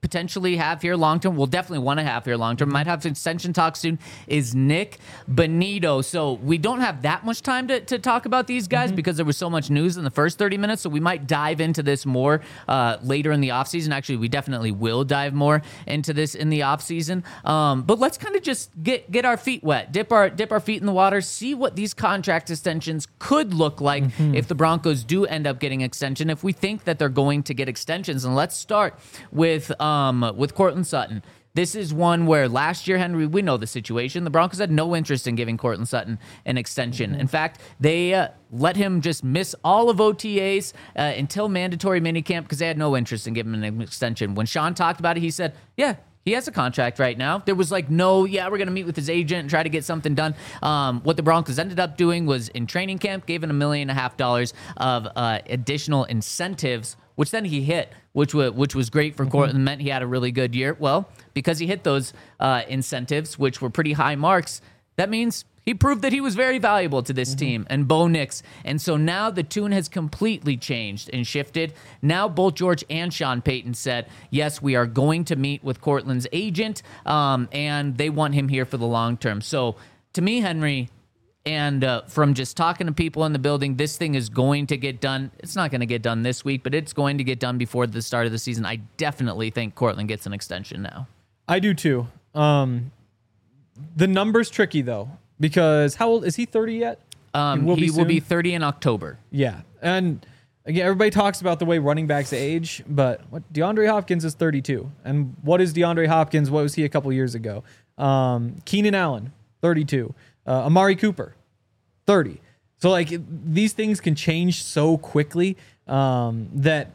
potentially have here long term, we'll definitely want to have here long term, might have extension talk soon, is Nick Bonito. So we don't have that much time to, to talk about these guys mm-hmm. because there was so much news in the first thirty minutes. So we might dive into this more uh, later in the offseason. Actually, we definitely will dive more into this in the offseason. Um, but let's kind of just get get our feet wet, dip our dip our feet in the water, see what these contract extensions could look like mm-hmm. if the Broncos do end up getting extension, if we think that they're going to get extensions. And let's start with um, with Courtland Sutton. This is one where last year, Henry, we know the situation. The Broncos had no interest in giving Courtland Sutton an extension. Mm-hmm. In fact, they uh, let him just miss all of O T As uh, until mandatory minicamp because they had no interest in giving him an extension. When Sean talked about it, he said, yeah, he has a contract right now. There was like, no, yeah, we're going to meet with his agent and try to get something done. Um, what the Broncos ended up doing was in training camp, gave him a million and a half dollars of uh, additional incentives, which then he hit, which was, which was great for mm-hmm. Courtland, meant he had a really good year. Well, because he hit those uh, incentives, which were pretty high marks, that means he proved that he was very valuable to this mm-hmm. team and Bo Nix. And so now the tune has completely changed and shifted. Now both George and Sean Payton said, yes, we are going to meet with Courtland's agent, um, and they want him here for the long term. So to me, Henry, and uh, from just talking to people in the building, this thing is going to get done. It's not going to get done this week, but it's going to get done before the start of the season. I definitely think Courtland gets an extension now. I
do too. Um, the number's tricky, though. Because how old is he? thirty yet?
Um, he will, he be, will be thirty in October.
Yeah, and again, everybody talks about the way running backs age, but what DeAndre Hopkins is thirty-two, and what is DeAndre Hopkins? What was he a couple years ago? Um, Keenan Allen, thirty-two. Uh, Amari Cooper, thirty. So like these things can change so quickly um, that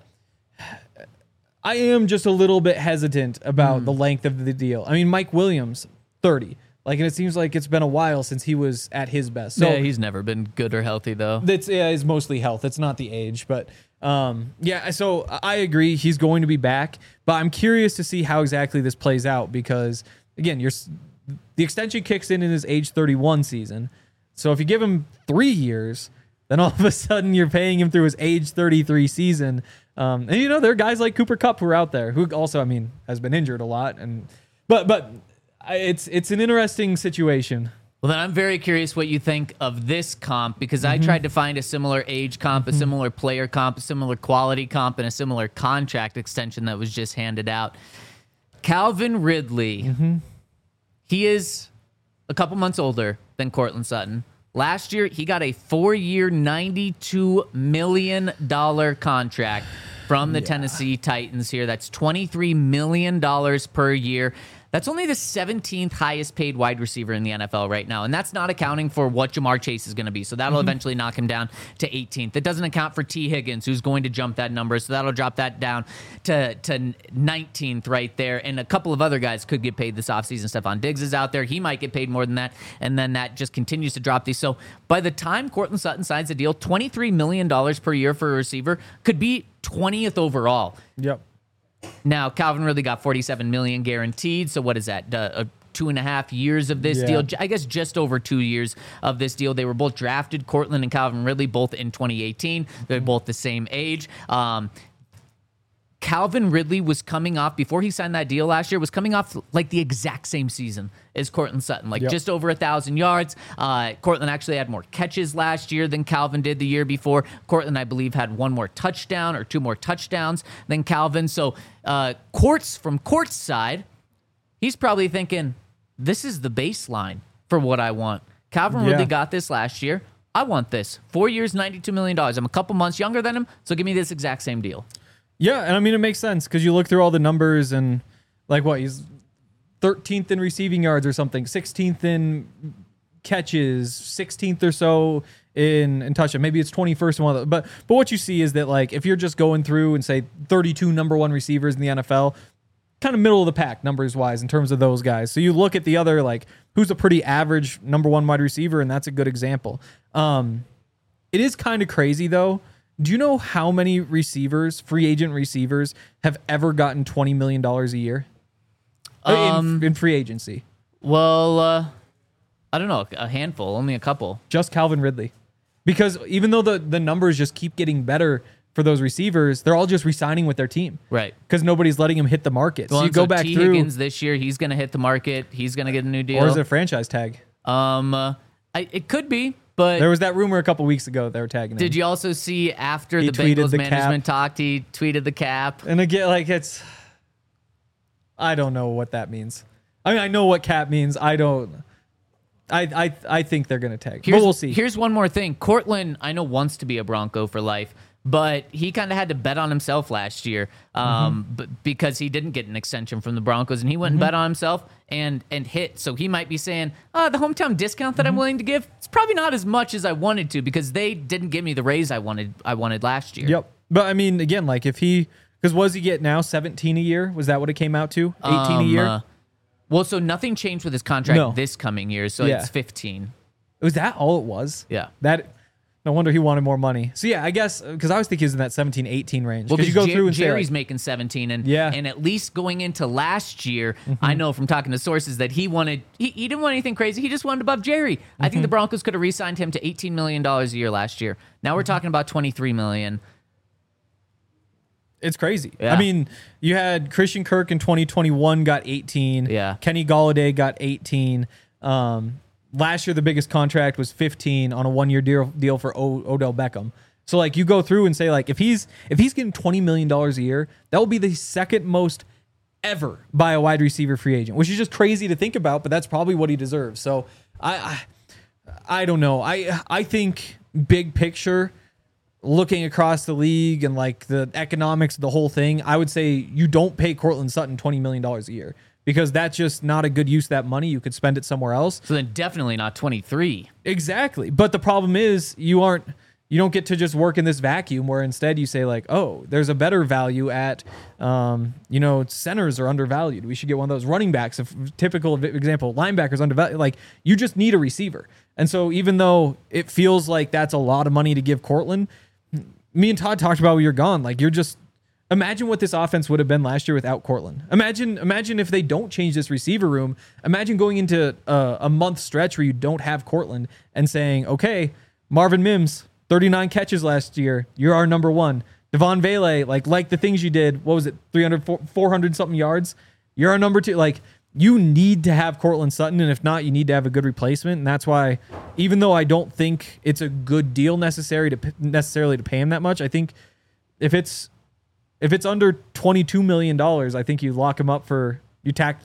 I am just a little bit hesitant about mm. the length of the deal. I mean, Mike Williams, thirty. Like, and it seems like it's been a while since he was at his best. So
yeah, he's never been good or healthy, though.
That's yeah, it's mostly health. It's not the age, but um, yeah. So I agree, he's going to be back. But I'm curious to see how exactly this plays out because, again, you're the extension kicks in in his age thirty-one season. So if you give him three years, then all of a sudden you're paying him through his age thirty-three season. Um, and you know there are guys like Cooper Kupp who are out there who also, I mean, has been injured a lot, and but but. It's it's an interesting situation.
Well, then I'm very curious what you think of this comp because mm-hmm. I tried to find a similar age comp, a mm-hmm. similar player comp, a similar quality comp, and a similar contract extension that was just handed out. Calvin Ridley, mm-hmm. he is a couple months older than Courtland Sutton. Last year, he got a four-year, ninety-two million dollars contract from the yeah. Tennessee Titans here. That's twenty-three million dollars per year. That's only the seventeenth highest paid wide receiver in the N F L right now. And that's not accounting for what Jamar Chase is going to be. So that'll mm-hmm. eventually knock him down to eighteenth. It doesn't account for T. Higgins, who's going to jump that number. So that'll drop that down to, to nineteenth right there. And a couple of other guys could get paid this offseason. Stephon Diggs is out there. He might get paid more than that. And then that just continues to drop these. So by the time Courtland Sutton signs a deal, twenty-three million dollars per year for a receiver could be twentieth overall.
Yep.
Now, Calvin Ridley got forty-seven million dollars guaranteed. So what is that? Uh, uh, two and a half years of this yeah. deal. I guess just over two years of this deal. They were both drafted, Courtland and Calvin Ridley, both in twenty eighteen. They're both the same age. Um, Calvin Ridley was coming off, before he signed that deal last year, was coming off like the exact same season as Courtland Sutton, like yep. just over a thousand yards. Uh, Courtland actually had more catches last year than Calvin did the year before. Courtland, I believe, had one more touchdown or two more touchdowns than Calvin. So uh, Courts, from Court's side, he's probably thinking, this is the baseline for what I want. Calvin yeah. Ridley got this last year. I want this. Four years, ninety-two million dollars. I'm a couple months younger than him, so give me this exact same deal.
Yeah, and I mean, it makes sense because you look through all the numbers and, like, what, he's thirteenth in receiving yards or something, sixteenth in catches, sixteenth or so in, in touchdown. Maybe it's twenty-first in one of the, but, but what you see is that, like, if you're just going through and, say, thirty-two number one receivers in the N F L, kind of middle of the pack numbers-wise in terms of those guys. So you look at the other, like, who's a pretty average number one wide receiver, and that's a good example. Um, it is kind of crazy, though. Do you know how many receivers, free agent receivers, have ever gotten twenty million dollars a year um, in, in free agency?
Well, uh, I don't know, a handful, only a couple.
Just Calvin Ridley. Because even though the, the numbers just keep getting better for those receivers, they're all just re-signing with their team.
Right.
Because nobody's letting them hit the market.
Well,
so you go
so
back
T.
through.
Higgins this year, he's going to hit the market. He's going to get a new deal.
Or is it a franchise tag?
Um, uh, I, it could be, but
There was that rumor a couple weeks ago they were tagging him.
did you also see after
He
the
tweeted
Bengals
the
management
cap.
talked, he tweeted the cap?
And again, like it's, I don't know what that means. I mean, I know what cap means. I don't. I I I think they're gonna tag,
Here's,
but we'll see.
Here's one more thing. Cortland, I know, wants to be a Bronco for life, but he kind of had to bet on himself last year um,
Mm-hmm.
but because he didn't get an extension from the Broncos, and he went and bet on himself and and hit. So he might be saying, oh, the hometown discount that I'm
Mm-hmm.
willing to give, it's probably not as much as I wanted to because they didn't give me the raise I wanted I wanted last year.
Yep. But I mean, again, like if he, because what does he get now? seventeen a year? Was that what it came out to? eighteen a
Um,
year?
uh, well, so nothing changed with his contract
No.
this coming year, so
Yeah.
it's fifteen.
Was that all it was?
Yeah.
That. No wonder he wanted more money. So yeah, I guess because I was thinking he was in that seventeen, eighteen range.
Well,
Because
because
you go through and
Jerry's
say, like,
making seventeen, and
Yeah. Mm-hmm.
and at least going into last year, I know from talking to sources that he wanted he, he didn't want anything crazy. He just wanted above Jerry. I think the
Mm-hmm.
Broncos could have re-signed him to eighteen million dollars a year last year. Now
Mm-hmm.
we're talking about twenty-three million.
it's crazy.
Yeah.
I mean, you had Christian Kirk in twenty twenty-one got eighteen.
Yeah.
Kenny Golladay got eighteen. Um, last year, the biggest contract was fifteen on a one-year deal deal for o- Odell Beckham. So like you go through and say like if he's if he's getting twenty million dollars a year, that will be the second most ever by a wide receiver free agent, which is just crazy to think about, but that's probably what he deserves. So I I, I don't know. I I think big picture, looking across the league and like the economics of the whole thing, I would say you don't pay Cortland Sutton twenty million dollars a year because that's just not a good use of that money. You could spend it somewhere else.
So then definitely not twenty-three.
Exactly. But the problem is you aren't you don't get to just work in this vacuum where instead you say like, oh, there's a better value at, um, you know, centers are undervalued. We should get one of those running backs. If typical example, linebackers undervalued. Like you just need a receiver. And so even though it feels like that's a lot of money to give Cortland, me and Todd talked about when you're gone. Like you're just imagine what this offense would have been last year without Cortland. Imagine, imagine if they don't change this receiver room. Imagine going into a, a month stretch where you don't have Cortland and saying, okay, Marvin Mims, thirty-nine catches last year. You're our number one. Devon Vele, like like the things you did. What was it? three hundred, four hundred something yards. You're our number two. Like you need to have Cortland Sutton, and if not, you need to have a good replacement. And that's why, even though I don't think it's a good deal necessary to necessarily to pay him that much, I think if it's if it's under twenty-two million dollars, I think you lock him up for you tack.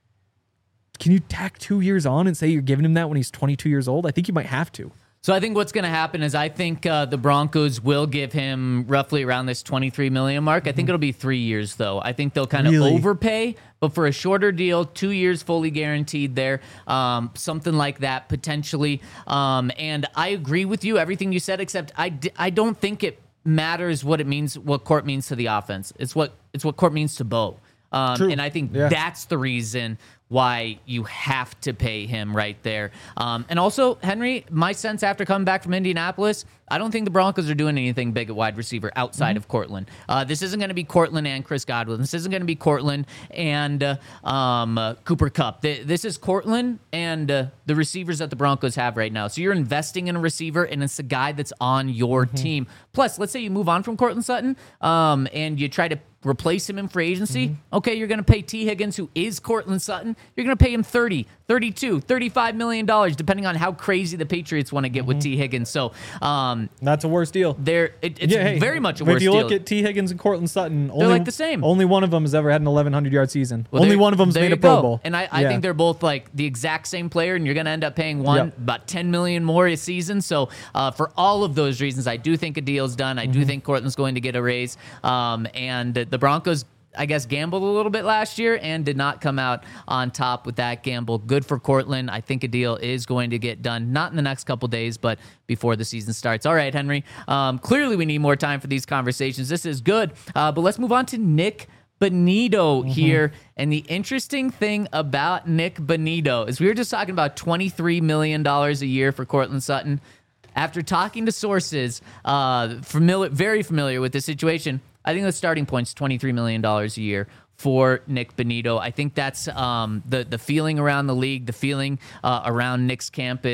Can you tack two years on and say you're giving him that when he's twenty-two years old? I think you might have to.
So I think what's going to happen is I think uh, the Broncos will give him roughly around this twenty-three million mark. I think it'll be three years though. I think they'll kind of
Really?
overpay, but for a shorter deal, two years fully guaranteed there, um, something like that potentially. Um, and I agree with you everything you said, except I d- I don't think it matters what it means, what Court means to the offense. It's what it's what Court means to Bo. Um,
True.
and I think
Yeah.
that's the reason why you have to pay him right there. Um, and also, Henry, my sense after coming back from Indianapolis, I don't think the Broncos are doing anything big at wide receiver outside of Cortland. Uh, this isn't going to be Cortland and Chris Godwin. This isn't going to be Cortland and uh, um, uh, Cooper Kupp. Th- This is Cortland and uh, the receivers that the Broncos have right now. So you're investing in a receiver, and it's a guy that's on your team. Plus, let's say you move on from Cortland Sutton um, and you try to replace him in free agency. Okay, you're going to pay T. Higgins, who is Cortland Sutton. You're going to pay him thirty, thirty-two, thirty-five million dollars, depending on how crazy the Patriots want to get with T. Higgins. So, um,
That's a worse deal.
they're it, it's
Yeah, hey,
very much a
but
worse
if you
deal.
look at T. Higgins and Cortland Sutton, only,
like the same.
Only one of them has ever had an eleven hundred yard season.
Well,
only
there-
one of them's
there
made
you
a Pro
go.
Bowl.
And I, I
Yeah.
think they're both like the exact same player, and you're going to end up paying one
Yep.
about ten million more a season. So uh, for all of those reasons, I do think a deal's done. I
Mm-hmm.
do think Cortland's going to get a raise. Um, and the Broncos, I guess, gambled a little bit last year and did not come out on top with that gamble. Good for Cortland. I think a deal is going to get done, not in the next couple days, but before the season starts. All right, Henry. Um, clearly, we need more time for these conversations. This is good. Uh, but let's move on to Nick Bonito here. And the interesting thing about Nick Bonito is we were just talking about twenty-three million dollars a year for Cortland Sutton. After talking to sources uh, familiar, very familiar with the situation, I think the starting point's twenty-three million dollars a year for Nick Bonito. I think that's um, the, the feeling around the league, the feeling uh, around Nick's camp is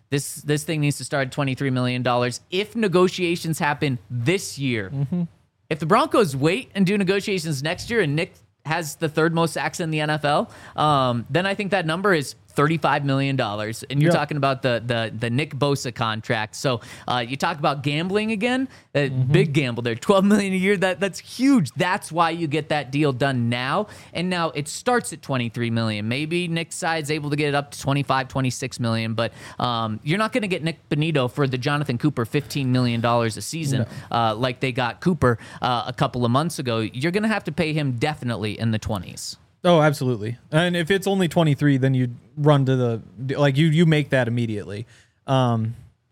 This this thing needs to start at twenty-three million dollars. If negotiations happen this year, mm-hmm. if the Broncos wait and do negotiations next year and Nick has the third most sacks in the N F L, um, then I think that number is thirty-five million dollars. And you're
yep.
talking about the the the Nick Bosa contract. So uh, you talk about gambling again, uh, mm-hmm. big gamble there, twelve million dollars a year. That That's huge. That's why you get that deal done now. And now it starts at twenty-three million dollars. Maybe Nick's side's able to get it up to twenty-five, twenty-six million dollars. But um, you're not going to get Nick Bonito for the Jonathan Cooper fifteen million dollars a season no. uh, like they got Cooper uh, a couple of months ago. You're going to have to pay him definitely in the twenties.
Oh, absolutely. And if it's only twenty-three, then you run to the like you you make that immediately. Um,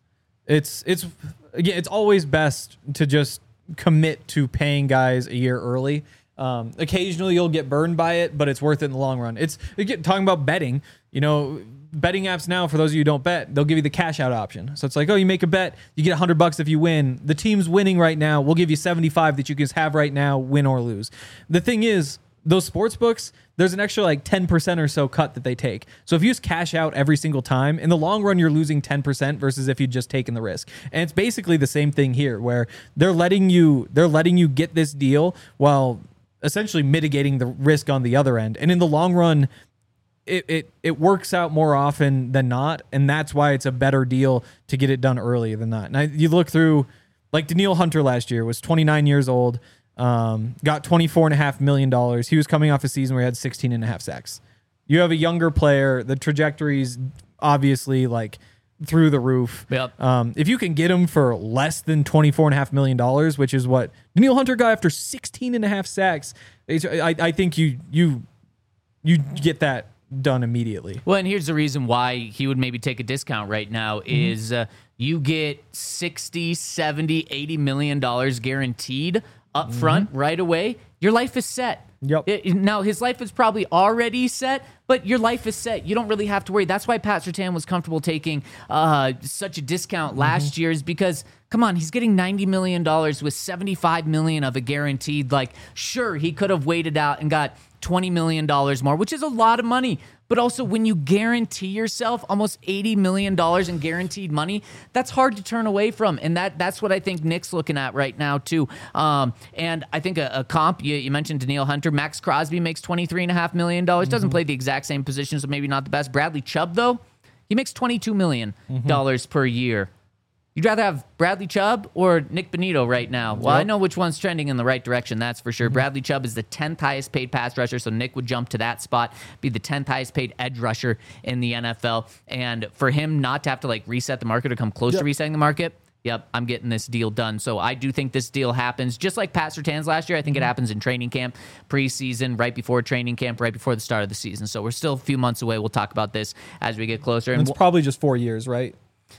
it's it's again, it's always best to just commit to paying guys a year early. Um, occasionally you'll get burned by it, but it's worth it in the long run. It's again, talking about betting. You know, betting apps now, for those of you who don't bet, they'll give you the cash out option. So it's like, oh, you make a bet, you get a hundred bucks if you win. The team's winning right now. We'll give you seventy-five that you can have right now, win or lose. The thing is, those sports books, there's an extra like ten percent or so cut that they take. So if you just cash out every single time, in the long run, you're losing ten percent versus if you'd just taken the risk. And it's basically the same thing here, where they're letting you they're letting you get this deal while essentially mitigating the risk on the other end. And in the long run, it it it works out more often than not, and that's why it's a better deal to get it done earlier than not. And I, you look through, like Danielle Hunter last year was twenty-nine years old. Um, got twenty-four and a half million dollars. He was coming off a season where he had sixteen and a half sacks. You have a younger player. The trajectory's obviously like through the roof.
Yep.
Um, if you can get him for less than twenty-four and a half million dollars, which is what Danielle Hunter got after sixteen and a half sacks, I, I think you, you, you get that done immediately.
Well, and here's the reason why he would maybe take a discount right now mm-hmm. is, uh, you get sixty, seventy, eighty million dollars guaranteed up front mm-hmm. right away. Your life is set.
Yep.
It, now, his life is probably already set, but your life is set. You don't really have to worry. That's why Pat Surtain was comfortable taking uh, such a discount mm-hmm. last year, is because, come on, he's getting ninety million dollars with seventy-five million dollars of a guaranteed. Like, sure, he could have waited out and got twenty million dollars more, which is a lot of money. But also, when you guarantee yourself almost eighty million dollars in guaranteed money, that's hard to turn away from. And that that's what I think Nick's looking at right now, too. Um, and I think a, a comp, you, you mentioned Danielle Hunter. Max Crosby makes twenty-three point five million dollars. Mm-hmm. Doesn't play the exact same position, so maybe not the best. Bradley Chubb, though, he makes twenty-two million dollars mm-hmm. per year. You'd rather have Bradley Chubb or Nick Bonito right now? Well, yep. I know which one's trending in the right direction, that's for sure. Mm-hmm. Bradley Chubb is the tenth highest paid pass rusher, so Nick would jump to that spot, be the tenth highest paid edge rusher in the N F L. And for him not to have to like reset the market or come close yep. to resetting the market, yep, I'm getting this deal done. So I do think this deal happens, just like Pat Surtain's last year. I think mm-hmm. it happens in training camp, preseason, right before training camp, right before the start of the season. So we're still a few months away. We'll talk about this as we get closer.
And it's
we'll,
probably just four years, right?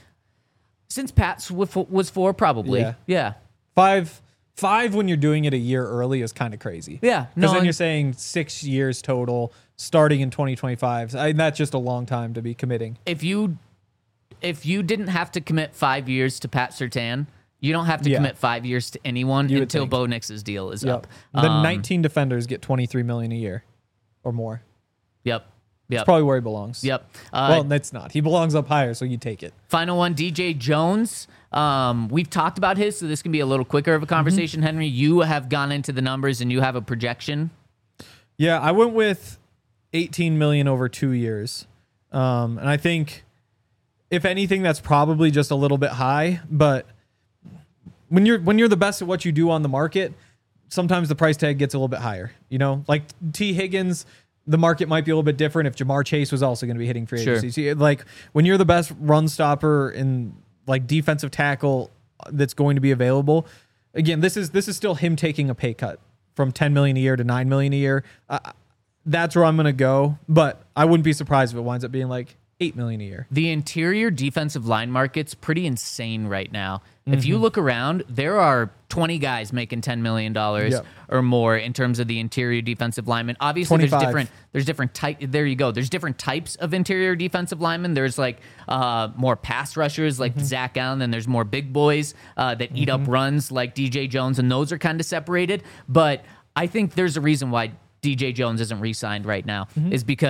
Since Pat's was four, probably.
Yeah.
yeah.
Five five when you're doing it a year early is kind of crazy.
Yeah.
Because
no,
then you're saying six years total starting in twenty twenty-five. I, that's just a long time to be committing.
If you if you didn't have to commit five years to Pat Surtain, you don't have to
yeah.
commit five years to anyone
you
until Bo Nix's deal is
yep.
up.
The
um,
nineteen defenders get twenty-three million dollars a year or more.
Yep. Yep.
That's probably where he belongs.
Yep. Uh,
well, that's not. He belongs up higher, so you take it.
Final one, D J Jones. Um, we've talked about his, so this can be a little quicker of a conversation. Mm-hmm. Henry, you have gone into the numbers and you have a projection.
Yeah, I went with eighteen million dollars over two years. Um, and I think, if anything, that's probably just a little bit high. But when you're when you're the best at what you do on the market, sometimes the price tag gets a little bit higher. You know, like T. Higgins, the market might be a little bit different if Jamar Chase was also going to be hitting free agency.
Sure.
So, like, when you're the best run stopper in like defensive tackle that's going to be available, again, this is this is still him taking a pay cut from ten million dollars a year to nine million dollars a year. Uh, that's where I'm going to go, but I wouldn't be surprised if it winds up being like eight million dollars a year.
The interior defensive line market's pretty insane right now.
Mm-hmm.
If you look around, there are twenty guys making ten million dollars
yep.
or more in terms of the interior defensive linemen. Obviously,
twenty-five.
there's different there's different type. There you go. There's different types of interior defensive linemen. There's like uh, more pass rushers like mm-hmm. Zach Allen, and there's more big boys uh, that eat mm-hmm. up runs like D J Jones, and those are kind of separated. But I think there's a reason why D J Jones isn't re-signed right now, mm-hmm. is because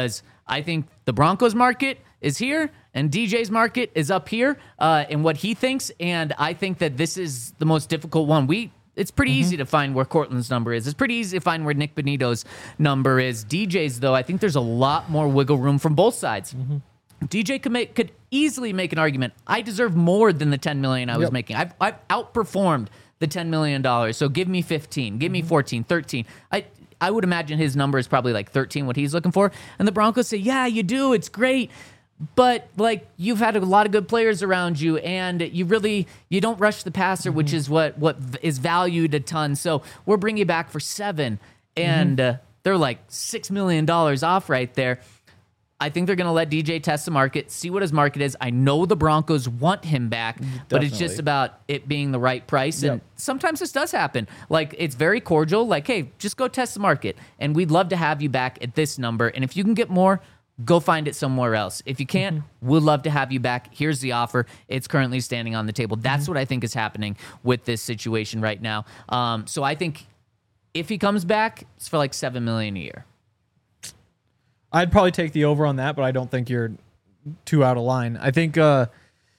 I think the Broncos market is here and D J's market is up here uh, in what he thinks. And I think that this is the most difficult one. We It's pretty mm-hmm. easy to find where Cortland's number is. It's pretty easy to find where Nick Benito's number is. D J's, though, I think there's a lot more wiggle room from both sides. Mm-hmm. D J could make could easily make an argument. I deserve more than the ten million dollars I was yep. making. I've, I've outperformed the ten million dollars. So give me fifteen, give me fourteen, thirteen. I I would imagine his number is probably like thirteen, what he's looking for. And the Broncos say, yeah, you do. It's great. But like you've had a lot of good players around you, and you really you don't rush the passer, mm-hmm. which is what what is valued a ton. So we're bringing you back for seven, and mm-hmm. uh, they're like six million dollars off right there. I think they're going to let D J test the market, see what his market is. I know the Broncos want him back, Definitely. but it's just about it being the right price. Yep. And sometimes this does happen. Like, it's very cordial. Like, hey, just go test the market, and we'd love to have you back at this number. And if you can get more, go find it somewhere else. If you can't, mm-hmm. we'd love to have you back. Here's the offer. It's currently standing on the table. That's mm-hmm. what I think is happening with this situation right now. Um, so I think if he comes back, it's for like seven million dollars a year.
I'd probably take the over on that, but I don't think you're too out of line. I think uh,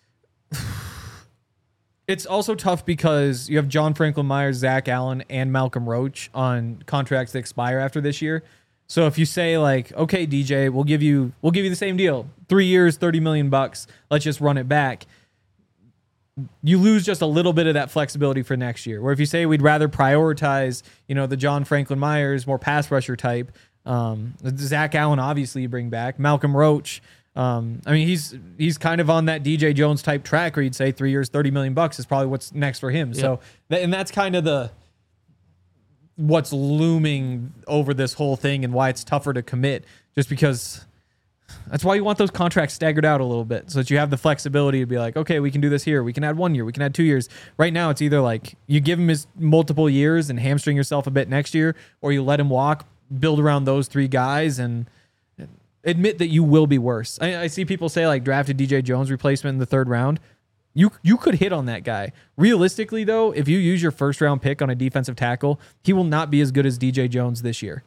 it's also tough because you have John Franklin Myers, Zach Allen, and Malcolm Roach on contracts that expire after this year. So if you say like, okay, D J, we'll give you we'll give you the same deal, three years, thirty million bucks. Let's just run it back. You lose just a little bit of that flexibility for next year. Where if you say we'd rather prioritize, you know, the John Franklin Myers, more pass rusher type. Um, Zach Allen, obviously, you bring back Malcolm Roach. Um, I mean, he's he's kind of on that D J Jones type track where you'd say three years, thirty million bucks is probably what's next for him. Yep. So, and that's kind of the what's looming over this whole thing and why it's tougher to commit. Just because that's why you want those contracts staggered out a little bit so that you have the flexibility to be like, okay, we can do this here. We can add one year. We can add two years. Right now, it's either like you give him his multiple years and hamstring yourself a bit next year, or you let him walk. Build around those three guys and admit that you will be worse. I, I see people say like drafted D J Jones replacement in the third round. You you could hit on that guy. Realistically, though, if you use your first round pick on a defensive tackle, he will not be as good as D J Jones this year.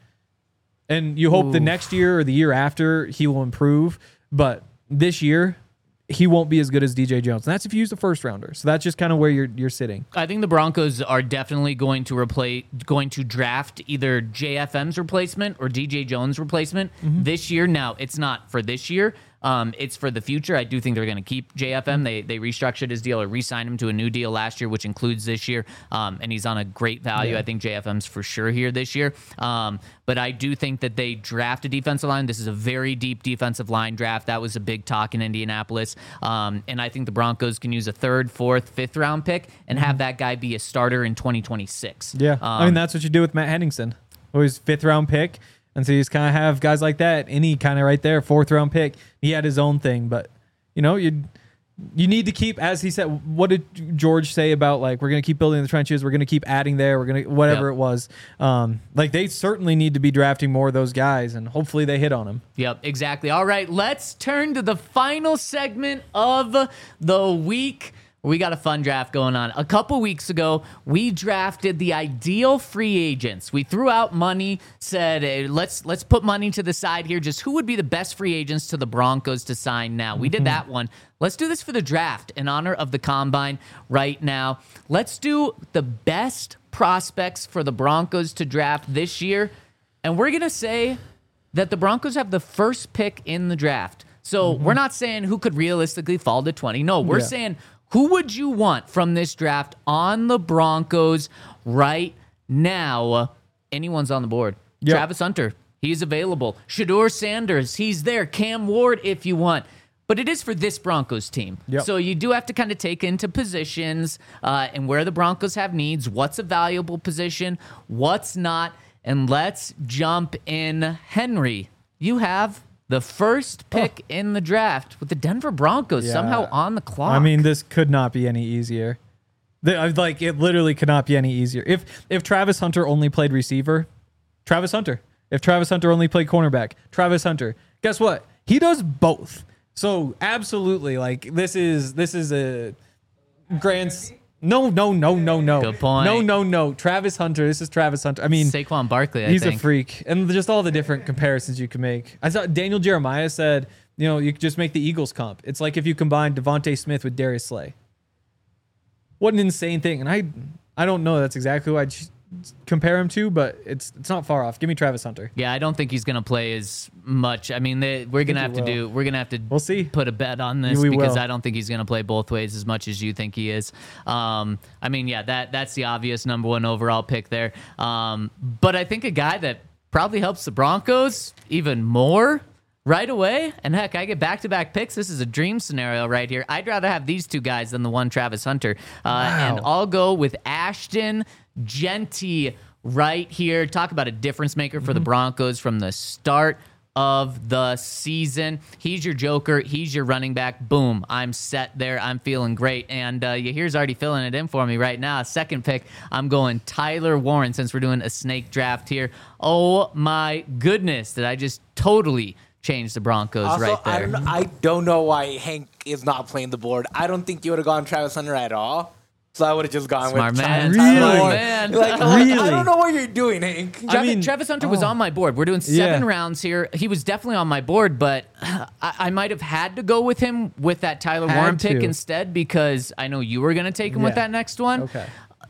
And you hope Ooh. the next year or the year after he will improve. But this year, he won't be as good as D J Jones. And that's if you use the first rounder. So that's just kind of where you're you're sitting.
I think the Broncos are definitely going to replace, going to draft either J F M's replacement or D J Jones' replacement mm-hmm. this year. Now, it's not for this year. Um, it's for the future. I do think they're going to keep J F M. They they restructured his deal or re-signed him to a new deal last year, which includes this year. Um, and he's on a great value. Yeah. I think J F M's for sure here this year. Um, but I do think that they draft a defensive line. This is a very deep defensive line draft. That was a big talk in Indianapolis. Um, and I think the Broncos can use a third, fourth, fifth round pick and have that guy be a starter in twenty twenty-six.
Yeah.
Um,
I mean, that's what you do with Matt Henningsen. Always fifth round pick. And so you just kind of have guys like that. Any kind of right there, fourth round pick. He had his own thing, but you know, you you need to keep, as he said. What did George say about like we're going to keep building the trenches? We're going to keep adding there. We're going to whatever yep. it was. Um, like they certainly need to be drafting more of those guys, and hopefully they hit on them.
Yep, exactly. All right, let's turn to the final segment of the week. We got a fun draft going on. A couple weeks ago, we drafted the ideal free agents. We threw out money, said, hey, let's let's put money to the side here. Just who would be the best free agents to the Broncos to sign now? We did that one. Let's do this for the draft in honor of the Combine right now. Let's do the best prospects for the Broncos to draft this year. And we're going to say that the Broncos have the first pick in the draft. So mm-hmm. we're not saying who could realistically fall to twenty. No, we're yeah. saying who would you want from this draft on the Broncos right now? Anyone's on the board. Yep. Travis Hunter, he's available. Shedeur Sanders, he's there. Cam Ward, if you want. But it is for this Broncos team. Yep. So you do have to kind of take into positions uh, and where the Broncos have needs. What's a valuable position? What's not? And let's jump in. Henry, you have the first pick oh. in the draft with the Denver Broncos yeah. somehow on the clock.
I mean, this could not be any easier. The, like, it literally could not be any easier. If if Travis Hunter only played receiver, Travis Hunter. If Travis Hunter only played cornerback, Travis Hunter. Guess what? He does both. So absolutely, like this is this is a grand. No, no, no, no, no.
Good point.
No, no, no. Travis Hunter. This is Travis Hunter. I mean,
Saquon Barkley, I
he's
think.
a freak. And just all the different comparisons you can make. I thought Daniel Jeremiah said, you know, you could just make the Eagles comp. It's like if you combine Devontae Smith with Darius Slay. What an insane thing. And I I don't know that's exactly who I'd compare him to, but it's it's not far off. Give me Travis Hunter.
Yeah, I don't think he's going to play as much. I mean, they, we're going to have
he
to
will.
do, we're going to have to
We'll see.
put a bet on this
We
because
will.
I don't think he's going to play both ways as much as you think he is. Um, I mean, yeah, that that's the obvious number one overall pick there. Um, but I think a guy that probably helps the Broncos even more right away, and heck, I get back-to-back picks. This is a dream scenario right here. I'd rather have these two guys than the one Travis Hunter. Uh, And I'll go with Ashton Genty right here. Talk about a difference maker for the Broncos from the start of the season. He's your joker. He's your running back. Boom. I'm set there. I'm feeling great. And uh, here's already filling it in for me right now. Second pick, I'm going Tyler Warren since we're doing a snake draft here. Oh, my goodness. Did I just totally change the Broncos
Also,
right
I
there?
don't, know, I don't know why Hank is not playing the board. I don't think you would have gone Travis Hunter at all. So I would have just gone
Smart
with
man.
Tyler Tyler
Really?
Warren.
Man.
Like, like,
Really?
I don't know what you're doing, Hank.
I
Travis,
mean-
Travis Hunter was
oh.
on my board. We're doing seven
Yeah.
rounds here. He was definitely on my board, but I, I might have had to go with him with that Tyler
Had
Warren pick
to.
instead because I know you were going to take him with
Yeah.
that next one.
Okay.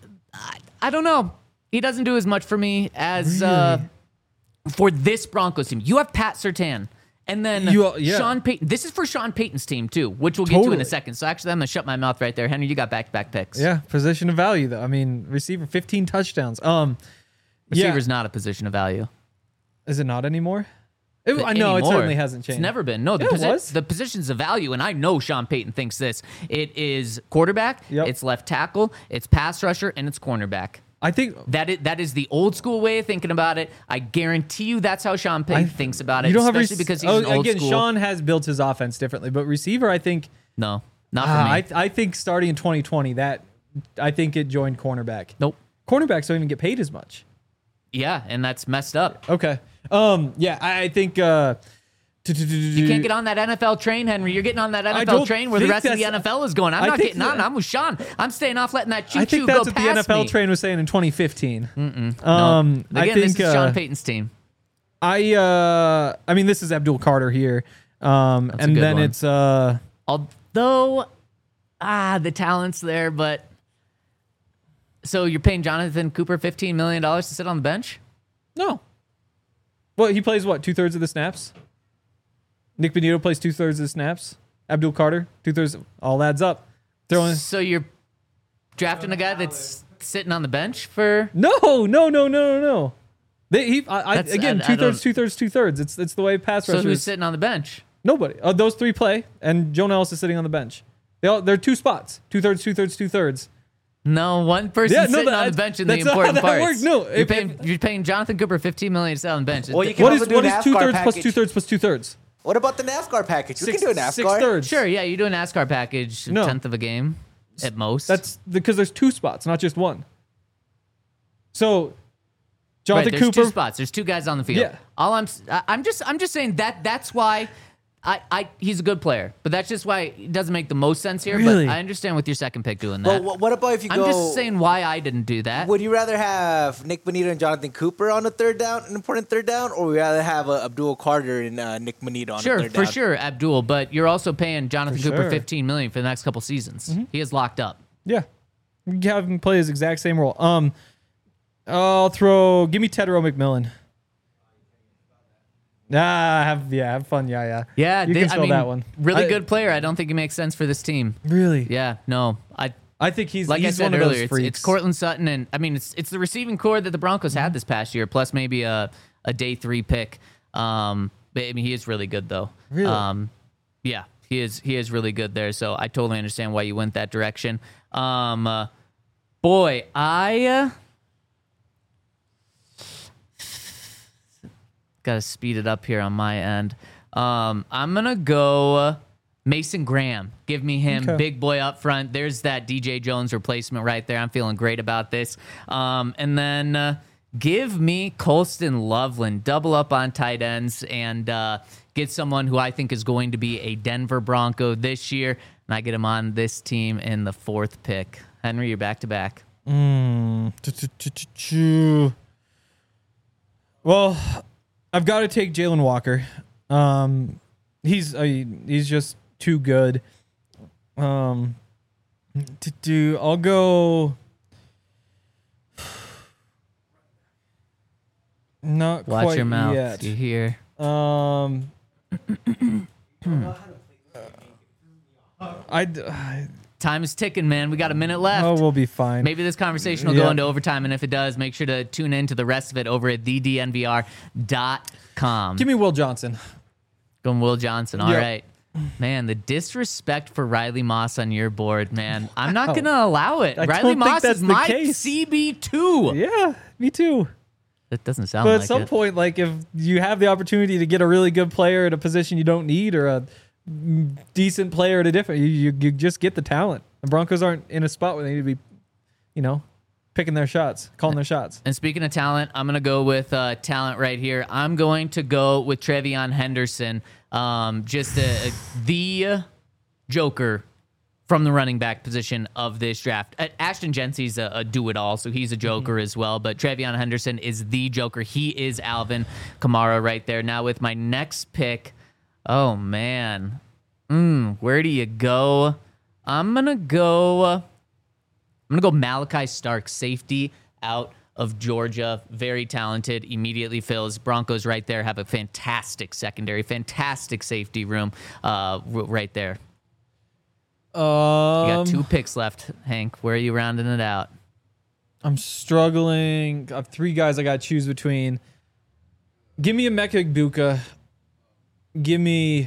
I don't know. He doesn't do as much for me as uh, for this Broncos team. You have Pat Surtain. And then
You- yeah.
Sean Payton. This is for Sean Payton's team, too, which we'll get to in a
Totally.
second. So actually, I'm going to shut my mouth right there. Henry, you got back-to-back picks.
Yeah, position of value though. I mean, receiver fifteen touchdowns. Um
Receiver's
yeah.
not a position of value.
Is it not anymore? It, I know it
Anymore.
certainly hasn't changed.
It's never been. No, the,
Yeah, it
posi-
was.
the positions of value, and I know Sean Payton thinks this. It is quarterback,
Yep.
it's left tackle, it's pass rusher, and it's cornerback.
I think
That is, that is the old school way of thinking about it. I guarantee you that's how Sean Payton
I-
thinks about it,
you don't have
especially
rec-
because he's
oh,
an old
again.
school.
Sean has built his offense differently, but receiver, I think.
no, not for
Uh,
me.
I I think starting in twenty twenty, that I think it joined cornerback.
nope.
Cornerbacks don't even get paid as much.
Yeah, and that's messed up.
Okay. Um. Yeah, I I think. Uh,
You can't get on that N F L train, Henry. You're getting on that N F L
don't
train where the
think
rest of the
that's-
N F L is going. I'm
I
not
think
getting on.
that-
I'm with Sean. I'm staying off letting that
I
choo-choo
think
go
that's what the
past
N F L
me.
train was saying in twenty fifteen. Mm-mm.
No.
Um.
Again,
I think.
this is
uh,
Sean Payton's team.
I. Uh. I mean, this is Abdul Carter here. Um.
a
and
good
then
one.
it's. Uh.
Although, ah, the talent's there, but so you're paying Jonathan Cooper fifteen million dollars to sit on the bench?
No. Well, he plays what? Two thirds of the snaps. Nick Benito plays two thirds of the snaps. Abdul Carter, two thirds. All adds up. Throwing.
So you're drafting a guy that's sitting on the bench for.
No, no, no, no, no, no. They, he, I, I,
That's-
again,
I- I
two thirds,
don't-
two thirds, two thirds. It's it's the way pass
So
rushers.
who's sitting on the bench?
Nobody. Uh, those three play, and Joe Nellis is sitting on the bench. They all they're two spots. Two thirds, two thirds, two thirds.
No, one person
Yeah, no,
sitting on the
that-
bench in the
that's not how
important
that
parts.
works. No,
you're
if-
paying you're paying Jonathan Cooper fifteen million dollars to sit on the bench.
Well, you can
What
also
is
do
what
an
is two
NASCAR
thirds plus
package.
two thirds plus two thirds?
What about the NASCAR package? We
Six,
can do a NASCAR.
six thirds.
Sure, yeah, you do a NASCAR package, a
No.
tenth of a game at most.
That's because there's two spots, not just one. So,
right.
Jonathan
There's
Cooper.
two spots. There's two guys on the field.
Yeah.
All I'm s- I- I'm just I'm just saying that that's why I, I he's a good player, but that's just why it doesn't make the most sense here.
Really?
But I understand with your second pick doing
But
that.
wh- what about if you
I'm
go?
just saying why I didn't do that.
Would you rather have Nick Bonito and Jonathan Cooper on a third down, an important third down, or would you rather have uh, Abdul Carter and uh, Nick Bonito on a
Sure,
third
for
down?
sure, Abdul, but you're also paying Jonathan
For
Cooper
sure.
fifteen million dollars for the next couple seasons.
Mm-hmm.
He is locked up.
Yeah, you can have him play his exact same role. Um, I'll throw. Give me Tedero McMillan. Nah, have yeah, have fun. Yeah, yeah.
Yeah,
you
they-
can
I
spell
mean,
that one.
Really
I-
good player. I don't think he makes sense for this team.
Really?
Yeah, no, I.
I think he's
Like
he's
I said
one of
earlier,
those
it's,
freaks.
it's Cortland Sutton, and I mean, it's it's the receiving core that the Broncos
Mm-hmm.
had this past year, plus maybe a a day three pick. Um, but I mean, he is really good though.
Really?
Um, yeah, he is he is really good there. So I totally understand why you went that direction. Um, uh, boy, I uh, gotta speed it up here on my end. Um, I'm gonna go. Uh, Mason Graham, give me him,
Okay.
big boy up front. There's that D J Jones replacement right there. I'm feeling great about this. Um, and then uh, give me Colston Loveland, double up on tight ends, and uh, get someone who I think is going to be a Denver Bronco this year. And I get him on this team in the fourth pick. Henry, you're back to back.
Mm. Well, I've got to take Jalen Walker. Um, he's uh, he's just too good. Um, to do, I'll go. Not
Watch
quite
your mouth.
yet.
You hear?
Um, I. I
Time is ticking, man. We got a minute left.
oh, we'll be fine.
Maybe this conversation will
Yeah.
go into overtime, and if it does, make sure to tune in to the rest of it over at the d n v r dot com.
Give me Will Johnson.
Going Will Johnson. All
Yep.
right. Man, the disrespect for Riley Moss on your board, man. I'm not
Wow.
going to allow it.
I
Riley
don't think
Moss
that's
is
the
my
case.
C B two.
Yeah, me too.
That doesn't sound
But
like
at some
it.
point, like if you have the opportunity to get a really good player at a position you don't need, or a decent player at a different, you, you, you just get the talent. The Broncos aren't in a spot where they need to be, you know, picking their shots, calling their shots.
And speaking of talent, I'm going to go with uh, talent right here. I'm going to go with Trevion Henderson. Um, just a, a, the joker from the running back position of this draft. Uh, Ashton Jency's a, a do-it-all, so he's a joker mm-hmm. as well. But Trevion Henderson is the joker. He is Alvin Kamara right there. Now with my next pick, oh, man. Mm, where do you go? I'm going to go... I'm going to go Malachi Stark, safety out of Georgia. Very talented, immediately fills. Broncos right there have a fantastic secondary, fantastic safety room uh, right there.
Um,
You got two picks left, Hank. Where are you rounding it out?
I'm struggling. I have three guys I got to choose between. Give me a Emeka Egbuka. Give me...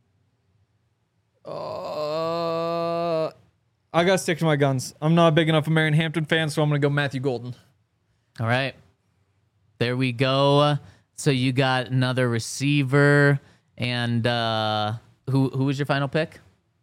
Uh, I got to stick to my guns. I'm not a big enough Marion Hampton fan, so I'm going to go Matthew Golden.
All right. There we go. So you got another receiver. And uh, who who was your final pick?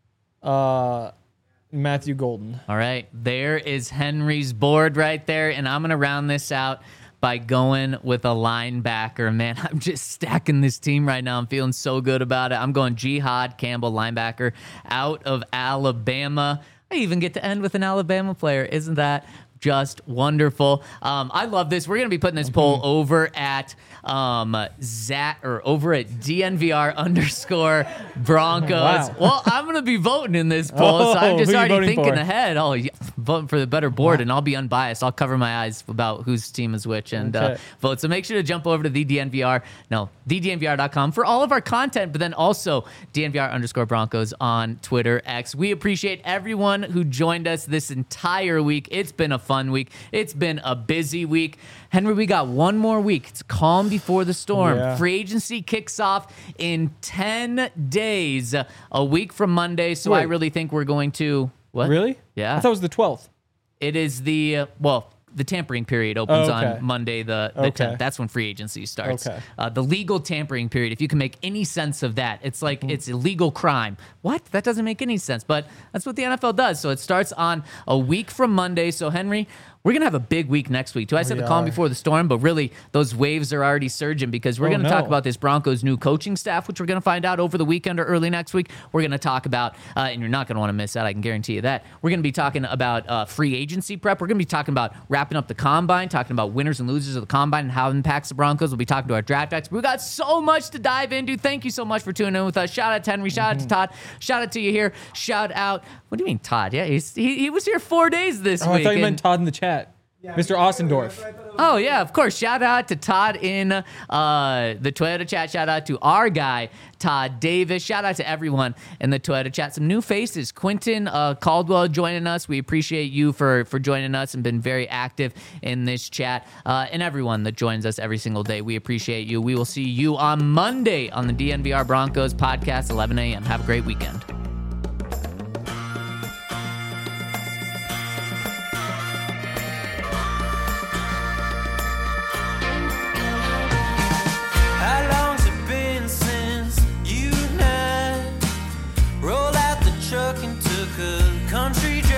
Uh, Matthew Golden.
All right. There is Henry's board right there. And I'm going to round this out by going with a linebacker. Man, I'm just stacking this team right now. I'm feeling so good about it. I'm going Jihad Campbell, linebacker out of Alabama. I even get to end with an Alabama player. Isn't that just wonderful? Um, I love this. We're going to be putting this poll over at um, Zat or over at D N V R underscore Broncos.
Wow.
Well, I'm going to be voting in this poll,
Oh,
so I'm just
who you
already
voting
thinking
for?
ahead. Oh, yeah, voting for the better board, and I'll be unbiased. I'll cover my eyes about whose team is which and uh,
Okay.
vote. So make sure to jump over to the D N V R, no, the D N V R dot com for all of our content, but then also D N V R underscore Broncos on Twitter X. We appreciate everyone who joined us this entire week. It's been a fun week. It's been a busy week. Henry, we got one more week. It's calm before the storm.
Yeah.
Free agency kicks off in ten days, a week from Monday. So I
Wait.
really think we're going to... What?
Really?
Yeah.
I thought it was the twelfth.
It is the, uh, well, the tampering period opens
Oh, okay.
on Monday, the, the
Okay.
tenth. That's when free agency starts.
Okay.
Uh, the legal tampering period, if you can make any sense of that, it's like
Mm-hmm.
it's illegal crime. What? That doesn't make any sense. But that's what the N F L does. So it starts on a week from Monday. So, Henry, we're going to have a big week next week, too. I said
We
the calm
are.
before the storm, but really those waves are already surging because we're
Oh,
going to talk
no.
about this Broncos new coaching staff, which we're going to find out over the weekend or early next week. We're going to talk about, uh, and you're not going to want to miss that, I can guarantee you that. We're going to be talking about uh, free agency prep. We're going to be talking about wrapping up the combine, talking about winners and losers of the combine and how it impacts the Broncos. We'll be talking to our draft experts. We've got so much to dive into. Thank you so much for tuning in with us. Shout out to Henry. Shout out to Todd. Shout out to you here. Shout out. What do you mean, Todd? Yeah, he's, he, he was here four days this
Oh,
week.
I thought you
and-
meant Todd in the chat. Mister Ossendorf.
Oh, yeah, of course. Shout out to Todd in uh, the Toyota chat. Shout out to our guy, Todd Davis. Shout out to everyone in the Toyota chat. Some new faces. Quentin uh, Caldwell joining us. We appreciate you for, for joining us and been very active in this chat. Uh, and everyone that joins us every single day. We appreciate you. We will see you on Monday on the D N V R Broncos podcast, eleven a.m. Have a great weekend.
How long's it been since you and I rolled out the truck and took a country drive?